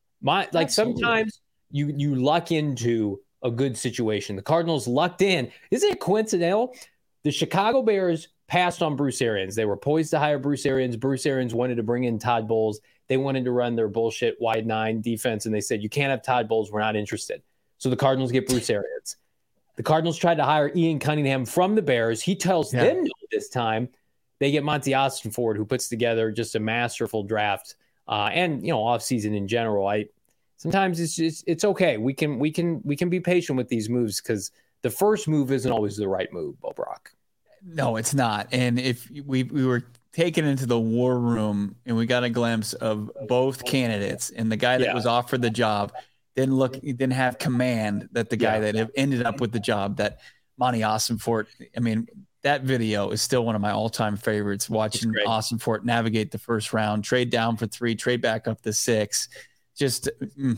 Sometimes you luck into a good situation. The Cardinals lucked in. Isn't it coincidental? The Chicago Bears passed on Bruce Arians. They were poised to hire Bruce Arians. Bruce Arians wanted to bring in Todd Bowles. They wanted to run their bullshit wide nine defense, and they said, "You can't have Todd Bowles. We're not interested." So the Cardinals get Bruce Arians. The Cardinals tried to hire Ian Cunningham from the Bears. He tells them no this time. They get Monty Ossenford, who puts together just a masterful draft, and offseason in general. Sometimes it's okay. We can be patient with these moves because the first move isn't always the right move, Bo Brock. No, it's not. And if we were taken into the war room and we got a glimpse of both candidates, and the guy that was offered the job didn't have command that the guy that ended up with the job, that Monty Ossenfort. I mean, that video is still one of my all-time favorites, watching Ossenfort navigate the first round, trade down for 3, trade back up to 6. Just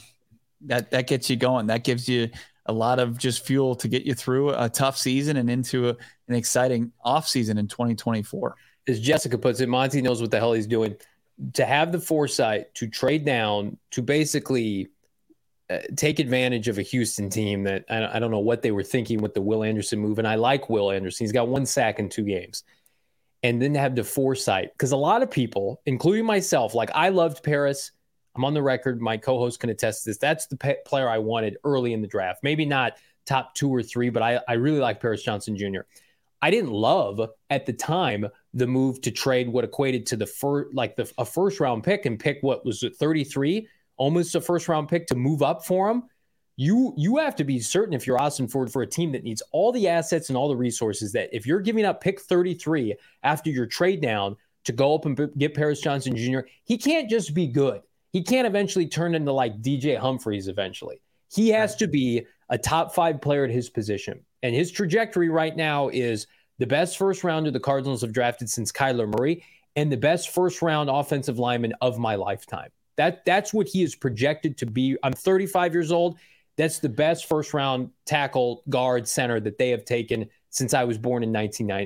that gets you going. That gives you a lot of just fuel to get you through a tough season and into an exciting offseason in 2024. As Jessica puts it, Monty knows what the hell he's doing. To have the foresight to trade down, to basically take advantage of a Houston team that I don't know what they were thinking with the Will Anderson move. And I like Will Anderson. He's got 1 sack in 2 games. And then to have the foresight, because a lot of people, including myself, like I loved Paris. I'm on the record. My co-host can attest to this. That's the player I wanted early in the draft. Maybe not top 2 or 3, but I really like Paris Johnson Jr. I didn't love at the time the move to trade what equated to a first round pick and pick what was it, 33, almost a first round pick to move up for him. You have to be certain, if you're Ossenford, for a team that needs all the assets and all the resources, that if you're giving up pick 33 after your trade down to go up and get Paris Johnson Jr., he can't just be good. He can't eventually turn into like DJ Humphries eventually. He has to be a top 5 player at his position. And his trajectory right now is the best first rounder the Cardinals have drafted since Kyler Murray and the best first round offensive lineman of my lifetime. That's what he is projected to be. I'm 35 years old. That's the best first round tackle, guard, center that they have taken since I was born in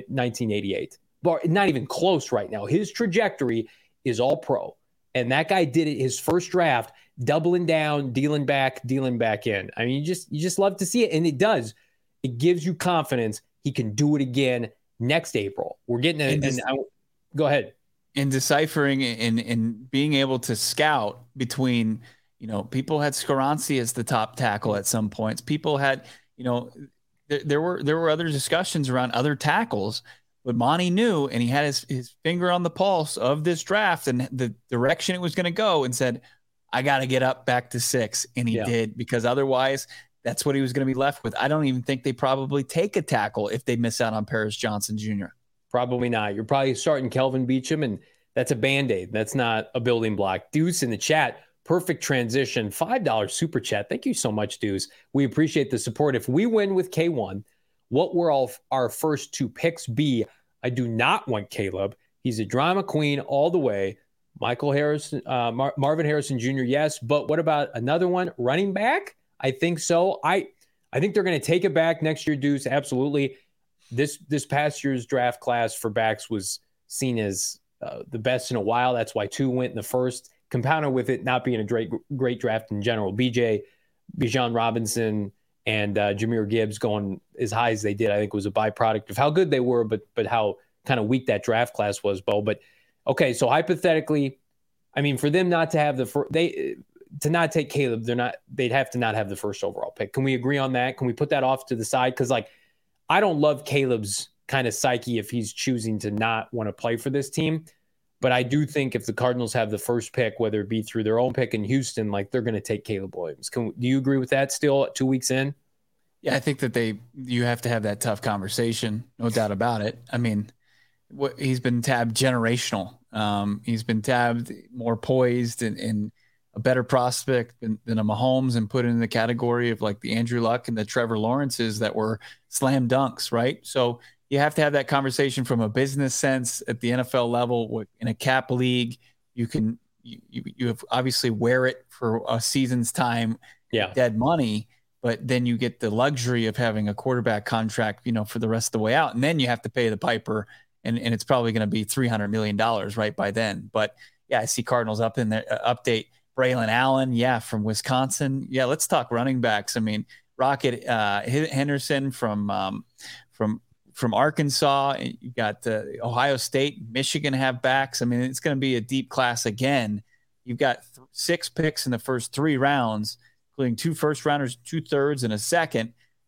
1988. But not even close right now. His trajectory is all pro. And that guy did it his first draft, doubling down, dealing back in. I mean, you just love to see it. And it does. It gives you confidence he can do it again next April. We're getting it. Go ahead. In deciphering and being able to scout between, people had Skoronski as the top tackle at some points. People had, there were other discussions around other tackles. But Monty knew, and he had his finger on the pulse of this draft and the direction it was going to go, and said, I got to get up back to 6. And he did, because otherwise that's what he was going to be left with. I don't even think they probably take a tackle if they miss out on Paris Johnson Jr. Probably not. You're probably starting Kelvin Beachum, and that's a Band-Aid. That's not a building block. Deuce in the chat, perfect transition, $5 super chat. Thank you so much, Deuce. We appreciate the support. If we win with K1, what will our first 2 picks be? I do not want Caleb. He's a drama queen all the way. Michael Harrison, Marvin Harrison Jr., yes. But what about another one? Running back? I think so. I think they're going to take it back next year, Deuce. Absolutely. This past year's draft class for backs was seen as the best in a while. That's why 2 went in the first. Compounded with it not being a great draft in general. Bijan Robinson, and Jahmyr Gibbs going as high as they did, I think was a byproduct of how good they were, but how kind of weak that draft class was, Bo. But okay, so hypothetically, I mean, for them not to have to not take Caleb, they'd have to not have the first overall pick. Can we agree on that? Can we put that off to the side? Because I don't love Caleb's kind of psyche if he's choosing to not want to play for this team. But I do think if the Cardinals have the first pick, whether it be through their own pick in Houston, they're going to take Caleb Williams. Do you agree with that still 2 weeks in? Yeah, I think that you have to have that tough conversation, no doubt about it. I mean, he's been tabbed generational He's been tabbed more poised and a better prospect than a Mahomes, and put in the category of like the Andrew Luck and the Trevor Lawrences that were slam dunks, right? So you have to have that conversation from a business sense at the NFL level. In a cap league, you have obviously wear it for a season's time, dead money, but then you get the luxury of having a quarterback contract, for the rest of the way out. And then you have to pay the piper, and it's probably going to be $300 million right by then. But yeah, I see Cardinals up in there. Update Braylon Allen, from Wisconsin. Yeah, let's talk running backs. I mean, Rocket Henderson from Arkansas. You got Ohio State, Michigan have backs. I mean, it's going to be a deep class again. You've got 6 picks in the first 3 rounds, including 2 first-rounders, 2 thirds, and a second.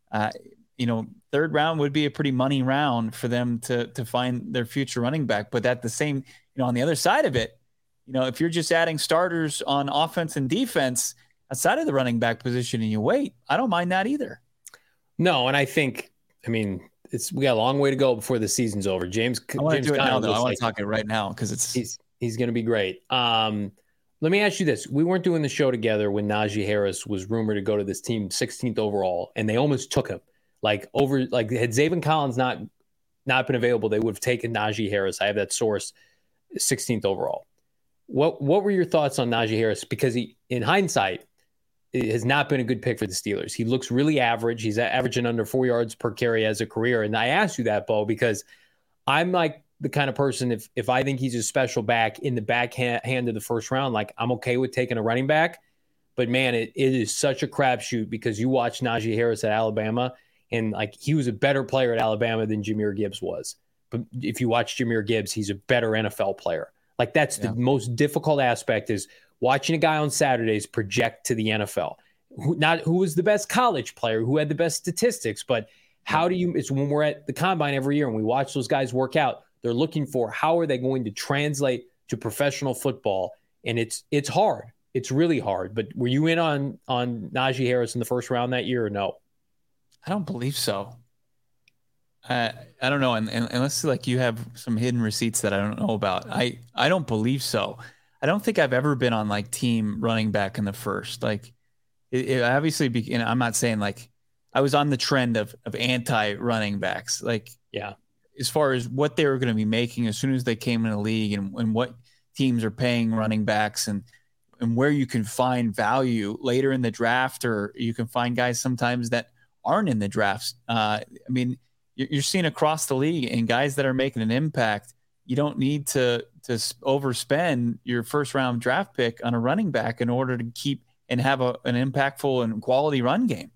Third round would be a pretty money round for them to find their future running back. But at the same, on the other side of it, if you're just adding starters on offense and defense outside of the running back position and you wait, I don't mind that either. No, and we got a long way to go before the season's over. I want to do it now, though. I want to talk it right now because he's going to be great. Let me ask you this. We weren't doing the show together when Najee Harris was rumored to go to this team 16th overall, and they almost took him. Had Zaven Collins not been available, they would have taken Najee Harris. I have that source, 16th overall. What were your thoughts on Najee Harris? Because he, in hindsight, it has not been a good pick for the Steelers. He looks really average. He's averaging under 4 yards per carry as a career. And I asked you that, Bo, because I'm like the kind of person, if I think he's a special back in the back hand of the first round, like I'm okay with taking a running back. But man, it is such a crapshoot because you watch Najee Harris at Alabama, and like he was a better player at Alabama than Jahmyr Gibbs was. But if you watch Jahmyr Gibbs, he's a better NFL player. Like that's the most difficult aspect, is watching a guy on Saturdays project to the NFL. Who was the best college player, who had the best statistics, but it's when we're at the combine every year and we watch those guys work out, they're looking for how are they going to translate to professional football. And it's hard. It's really hard. But were you in on Najee Harris in the first round that year or no? I don't believe so. I don't know. And unless like you have some hidden receipts that I don't know about. I don't believe so. I don't think I've ever been on like team running back in the first. Like it obviously, I'm not saying like I was on the trend of anti running backs. Like, as far as what they were going to be making as soon as they came in the league and what teams are paying running backs and where you can find value later in the draft, or you can find guys sometimes that aren't in the drafts. You're seeing across the league, and guys that are making an impact, you don't need to overspend your first round draft pick on a running back in order to keep and have an impactful and quality run game.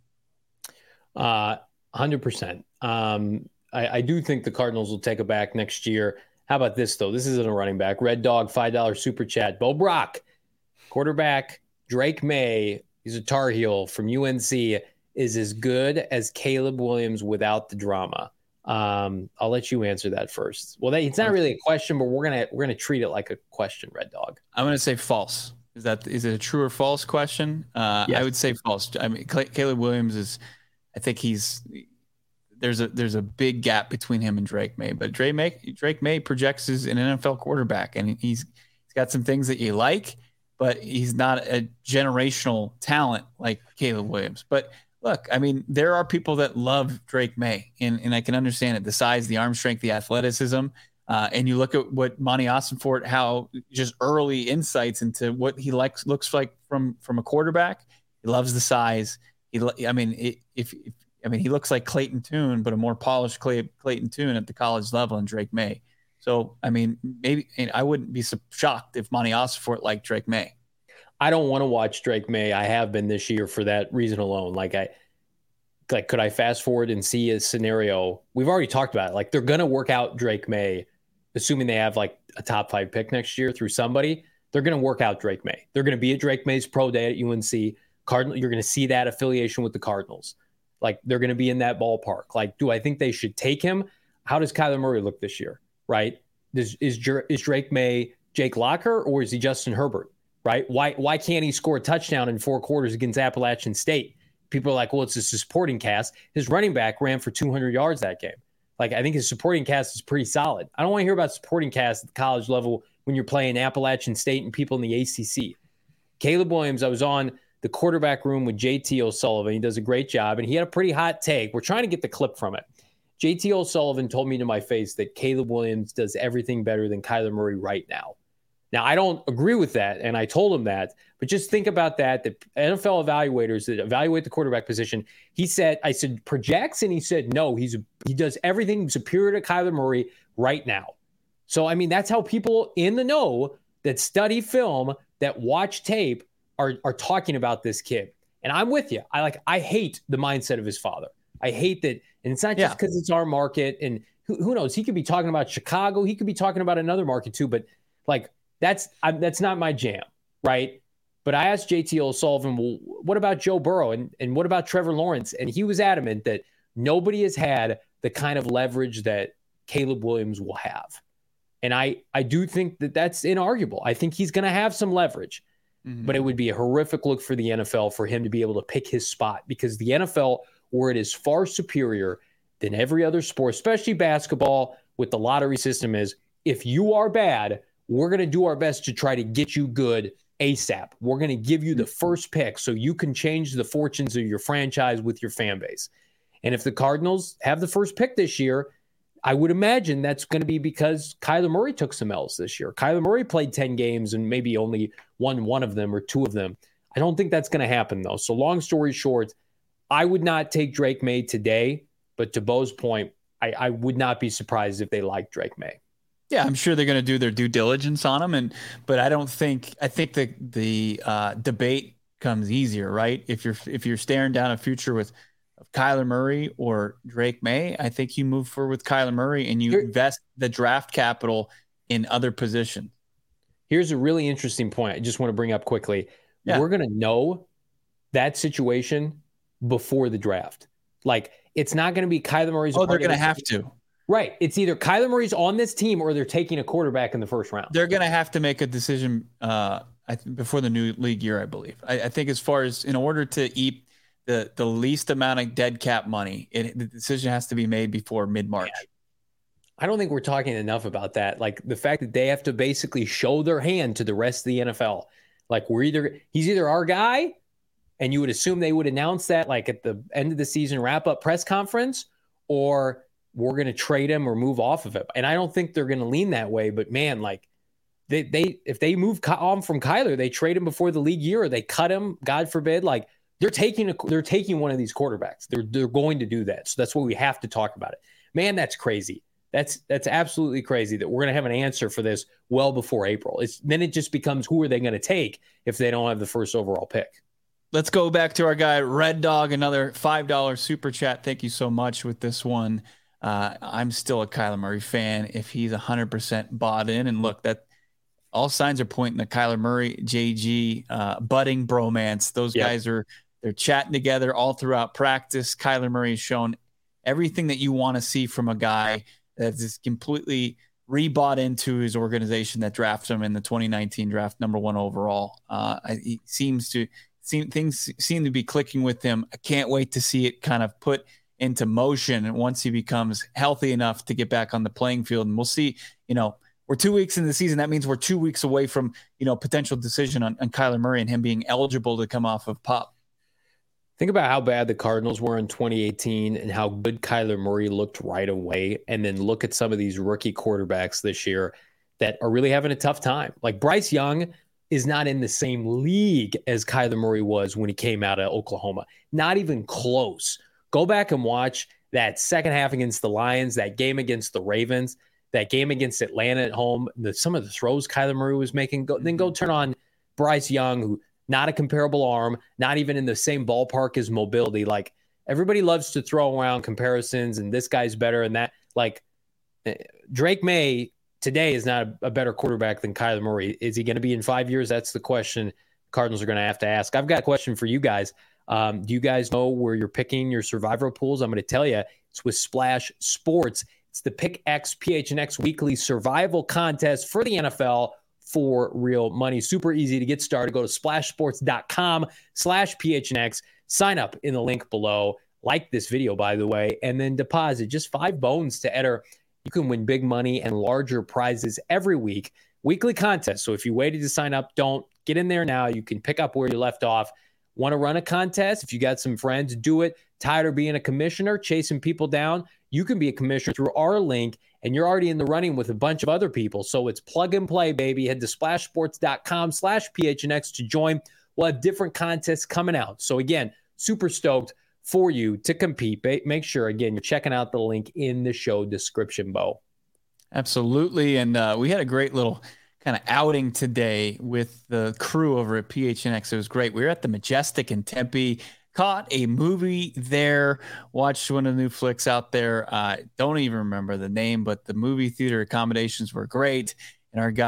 100%. I do think the Cardinals will take a back next year. How about this, though? This isn't a running back. Red Dog, $5 super chat. Bo Brock, quarterback. Drake May, he's a Tar Heel from UNC, is as good as Caleb Williams without the drama. I'll let you answer that first. Well, it's not really a question, but we're gonna treat it like a question, Red Dog. I'm gonna say false. Is it a true or false question? Yes. I would say false. I mean, Caleb Williams is. I think there's a big gap between him and Drake May, but Drake May projects as an NFL quarterback, and he's got some things that you like, but he's not a generational talent like Caleb Williams. But look, I mean, there are people that love Drake May, and I can understand it. The size, the arm strength, the athleticism. And you look at what Monty Ossenfort, how just early insights into what he looks like from a quarterback. He loves the size. He looks like Clayton Tune, but a more polished Clayton Tune at the college level in Drake May. So, I mean, maybe I wouldn't be so shocked if Monty Ossenfort liked Drake May. I don't want to watch Drake May. I have been this year for that reason alone. Could I fast forward and see a scenario? We've already talked about it. Like, they're going to work out Drake May, assuming they have like a top 5 pick next year through somebody. They're going to work out Drake May. They're going to be at Drake May's pro day at UNC. Cardinal, you're going to see that affiliation with the Cardinals. Like, they're going to be in that ballpark. Like, do I think they should take him? How does Kyler Murray look this year? Right? Is Drake May Jake Locker, or is he Justin Herbert? Right? Why can't he score a touchdown in 4 quarters against Appalachian State? People are like, well, it's a supporting cast. His running back ran for 200 yards that game. Like, I think his supporting cast is pretty solid. I don't want to hear about supporting cast at the college level when you're playing Appalachian State and people in the ACC. Caleb Williams, I was on the quarterback room with JT O'Sullivan. He does a great job, and he had a pretty hot take. We're trying to get the clip from it. JT O'Sullivan told me to my face that Caleb Williams does everything better than Kyler Murray right now. Now, I don't agree with that, and I told him that, but just think about that. The NFL evaluators that evaluate the quarterback position, I said, projects, and he said, no, he does everything superior to Kyler Murray right now. So, I mean, that's how people in the know that study film, that watch tape, are talking about this kid. And I'm with you. I hate the mindset of his father. I hate that. And it's not just because it's our market. And who knows? He could be talking about Chicago. He could be talking about another market too. But that's not my jam, right? But I asked JT O'Sullivan, well, what about Joe Burrow and what about Trevor Lawrence? And he was adamant that nobody has had the kind of leverage that Caleb Williams will have. And I do think that that's inarguable. I think he's going to have some leverage, but it would be a horrific look for the NFL for him to be able to pick his spot, because the NFL, where it is far superior than every other sport, especially basketball with the lottery system, is if you are bad, we're going to do our best to try to get you good ASAP. We're going to give you the first pick so you can change the fortunes of your franchise with your fan base. And if the Cardinals have the first pick this year, I would imagine that's going to be because Kyler Murray took some L's this year. Kyler Murray played 10 games and maybe only won one of them or two of them. I don't think that's going to happen, though. So long story short, I would not take Drake May today, but to Bo's point, I would not be surprised if they like Drake May. Yeah, I'm sure they're going to do their due diligence on him, but I think the debate comes easier, right? If you're staring down a future with Kyler Murray or Drake May, I think you move forward with Kyler Murray and you invest the draft capital in other positions. Here's a really interesting point I just want to bring up quickly. Yeah. We're going to know that situation before the draft. It's not going to be Kyler Murray's. Oh, they're going to have to. Right. It's either Kyler Murray's on this team or they're taking a quarterback in the first round. They're going to have to make a decision before the new league year, I believe. I think as far as in order to eat the least amount of dead cap money, the decision has to be made before mid-March. I don't think we're talking enough about that. The fact that they have to basically show their hand to the rest of the NFL. He's either our guy, and you would assume they would announce that at the end of the season wrap-up press conference, or we're going to trade him or move off of it. And I don't think they're going to lean that way. But man, if they move on from Kyler, they trade him before the league year, or they cut him, God forbid. They're taking one of these quarterbacks. They're going to do that. So that's why we have to talk about it. Man, that's crazy. That's absolutely crazy that we're going to have an answer for this well before April. Then it just becomes, who are they going to take if they don't have the first overall pick? Let's go back to our guy Red Dog, another $5 super chat. Thank you so much with this one. I'm still a Kyler Murray fan if he's 100% bought in. And look, that all signs are pointing to Kyler Murray, JG, budding bromance. Those guys they're chatting together all throughout practice. Kyler Murray has shown everything that you want to see from a guy that is completely rebought into his organization that drafted him in the 2019 draft, number 1 overall. Things seem to be clicking with him. I can't wait to see it kind of put into motion once he becomes healthy enough to get back on the playing field. And we'll see, we're 2 weeks into the season. That means we're 2 weeks away from, potential decision on Kyler Murray and him being eligible to come off of PUP. Think about how bad the Cardinals were in 2018 and how good Kyler Murray looked right away. And then look at some of these rookie quarterbacks this year that are really having a tough time. Bryce Young is not in the same league as Kyler Murray was when he came out of Oklahoma. Not even close. Go back and watch that second half against the Lions, that game against the Ravens, that game against Atlanta at home, some of the throws Kyler Murray was making. Then go turn on Bryce Young, who not a comparable arm, not even in the same ballpark as mobility. Everybody loves to throw around comparisons and this guy's better and that. Drake May today is not a better quarterback than Kyler Murray. Is he going to be in 5 years? That's the question Cardinals are going to have to ask. I've got a question for you guys. Do you guys know where you're picking your survivor pools? I'm going to tell you, it's with Splash Sports. It's the Pick X PHNX weekly survival contest for the NFL for real money. Super easy to get started. Go to splashsports.com/PHNX. Sign up in the link below. Like this video, by the way, and then deposit just $5 to enter. You can win big money and larger prizes every week weekly contest. So if you waited to sign up, don't get in there now. You can pick up where you left off. Want to run a contest? If you got some friends, do it. Tired of being a commissioner, chasing people down? You can be a commissioner through our link, and you're already in the running with a bunch of other people. So it's plug and play, baby. Head to splashsports.com/PHNX to join. We'll have different contests coming out. So again, super stoked for you to compete. Make sure, again, you're checking out the link in the show description, Bo. Absolutely. And we had a great little kind of outing today with the crew over at PHNX. It was great. We were at the Majestic in Tempe, caught a movie there, watched one of the new flicks out there. Don't even remember the name, but the movie theater accommodations were great. And our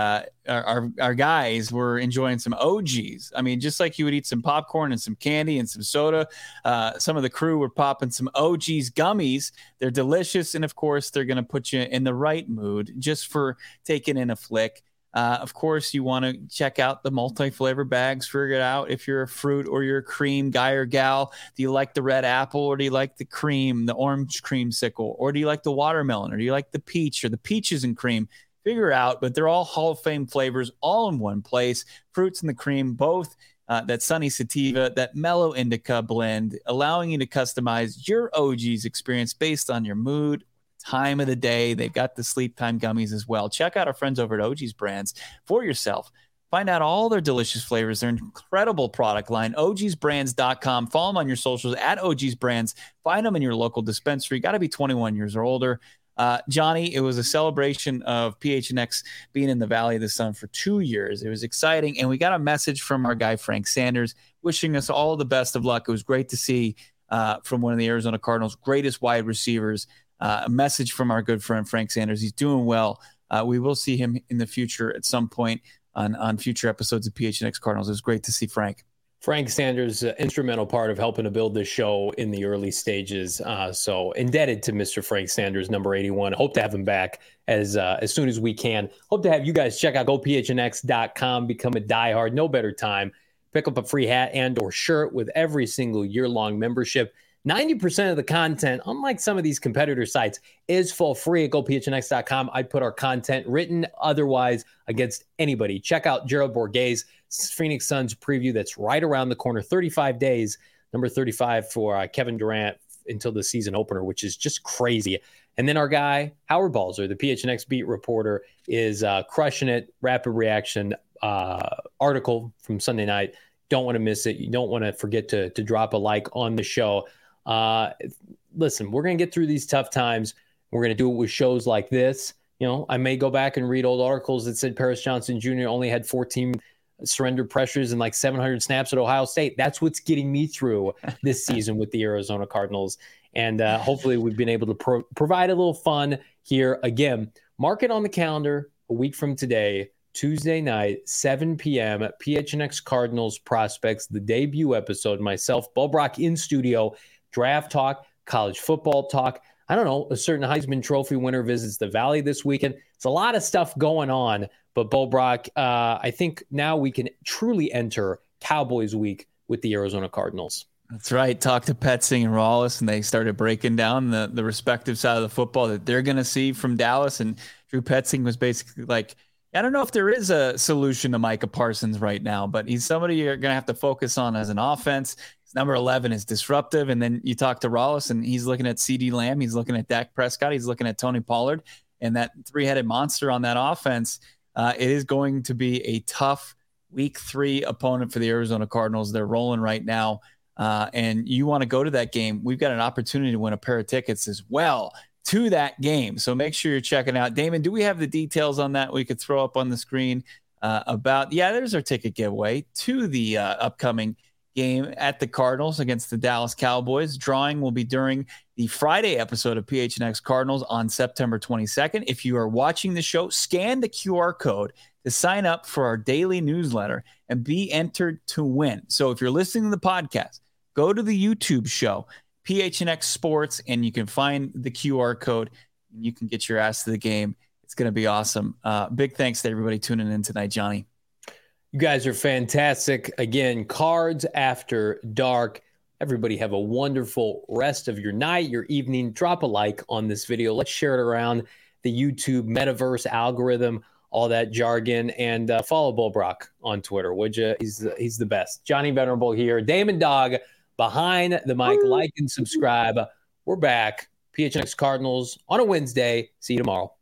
guys were enjoying some OGs. I mean, just like you would eat some popcorn and some candy and some soda, some of the crew were popping some OGs gummies. They're delicious. And of course, they're going to put you in the right mood just for taking in a flick. Of course, you want to check out the multi-flavor bags, figure it out if you're a fruit or you're a cream guy or gal. Do you like the red apple, or do you like the cream, the orange creamsicle, or do you like the watermelon, or do you like the peach or the peaches and cream? Figure out, but they're all Hall of Fame flavors all in one place. Fruits and the cream, both that sunny sativa, that mellow indica blend, allowing you to customize your OG's experience based on your mood, time of the day. They've got the sleep time gummies as well. Check out our friends over at OG's Brands for yourself. Find out all their delicious flavors, their incredible product line, ogsbrands.com. Follow them on your socials at OG's Brands. Find them in your local dispensary. Got to be 21 years or older. Johnny, it was a celebration of PHNX being in the Valley of the Sun for 2 years. It was exciting, and we got a message from our guy Frank Sanders wishing us all the best of luck. It was great to see from one of the Arizona Cardinals' greatest wide receivers, a message from our good friend Frank Sanders. He's doing well. We will see him in the future at some point on future episodes of PHNX Cardinals. It was great to see Frank. Frank Sanders, instrumental part of helping to build this show in the early stages. So indebted to Mr. Frank Sanders, number 81. Hope to have him back as soon as we can. Hope to have you guys check out gophnx.com, become a diehard. No better time. Pick up a free hat and or shirt with every single year-long membership. 90% of the content, unlike some of these competitor sites, is for free at gophnx.com. I put our content, written otherwise, against anybody. Check out Gerald Borges' Phoenix Suns preview that's right around the corner. 35 days, number 35 for Kevin Durant until the season opener, which is just crazy. And then our guy, Howard Balzer, the PHNX beat reporter, is crushing it. Rapid reaction article from Sunday night. Don't want to miss it. You don't want to forget to drop a like on the show. Listen, we're going to get through these tough times. We're going to do it with shows like this. You know, I may go back and read old articles that said Paris Johnson Jr. only had 14 surrender pressures and like 700 snaps at Ohio State. That's what's getting me through this season with the Arizona Cardinals. And hopefully we've been able to provide a little fun here. Again, mark it on the calendar a week from today, Tuesday night, 7 p.m. at PHNX Cardinals Prospects, the debut episode. Myself, Bo Brock in studio, draft talk, college football talk. I don't know, a certain Heisman Trophy winner visits the Valley this weekend. It's a lot of stuff going on. But Bo Brock, I think now we can truly enter Cowboys week with the Arizona Cardinals. That's right. Talked to Petzing and Rawlis, and they started breaking down the respective side of the football that they're going to see from Dallas. And Drew Petzing was basically like, I don't know if there is a solution to Micah Parsons right now, but he's somebody you're going to have to focus on as an offense. His number 11 is disruptive. And then you talk to Rawlis, and he's looking at CeeDee Lamb. He's looking at Dak Prescott. He's looking at Tony Pollard. And that three-headed monster on that offense, it is going to be a tough week 3 opponent for the Arizona Cardinals. They're rolling right now. And you want to go to that game. We've got an opportunity to win a pair of tickets as well to that game. So make sure you're checking out. Damon, do we have the details on that we could throw up on the screen there's our ticket giveaway to the upcoming game at the Cardinals against the Dallas Cowboys. Drawing will be during the Friday episode of PHNX Cardinals on September 22nd. If you are watching the show, scan the QR code to sign up for our daily newsletter and be entered to win. So if you're listening to the podcast, go to the YouTube show, PHNX Sports, and you can find the QR code. And you can get your ass to the game. It's going to be awesome. Big thanks to everybody tuning in tonight, Johnny. You guys are fantastic. Again, Cards After Dark. Everybody have a wonderful rest of your night, your evening. Drop a like on this video. Let's share it around the YouTube metaverse algorithm. all that jargon, and follow Bull Brock on Twitter, would you? He's the best. Johnny Venerable here. Damon Dog behind the mic. Like and subscribe. We're back. PHNX Cardinals on a Wednesday. See you tomorrow.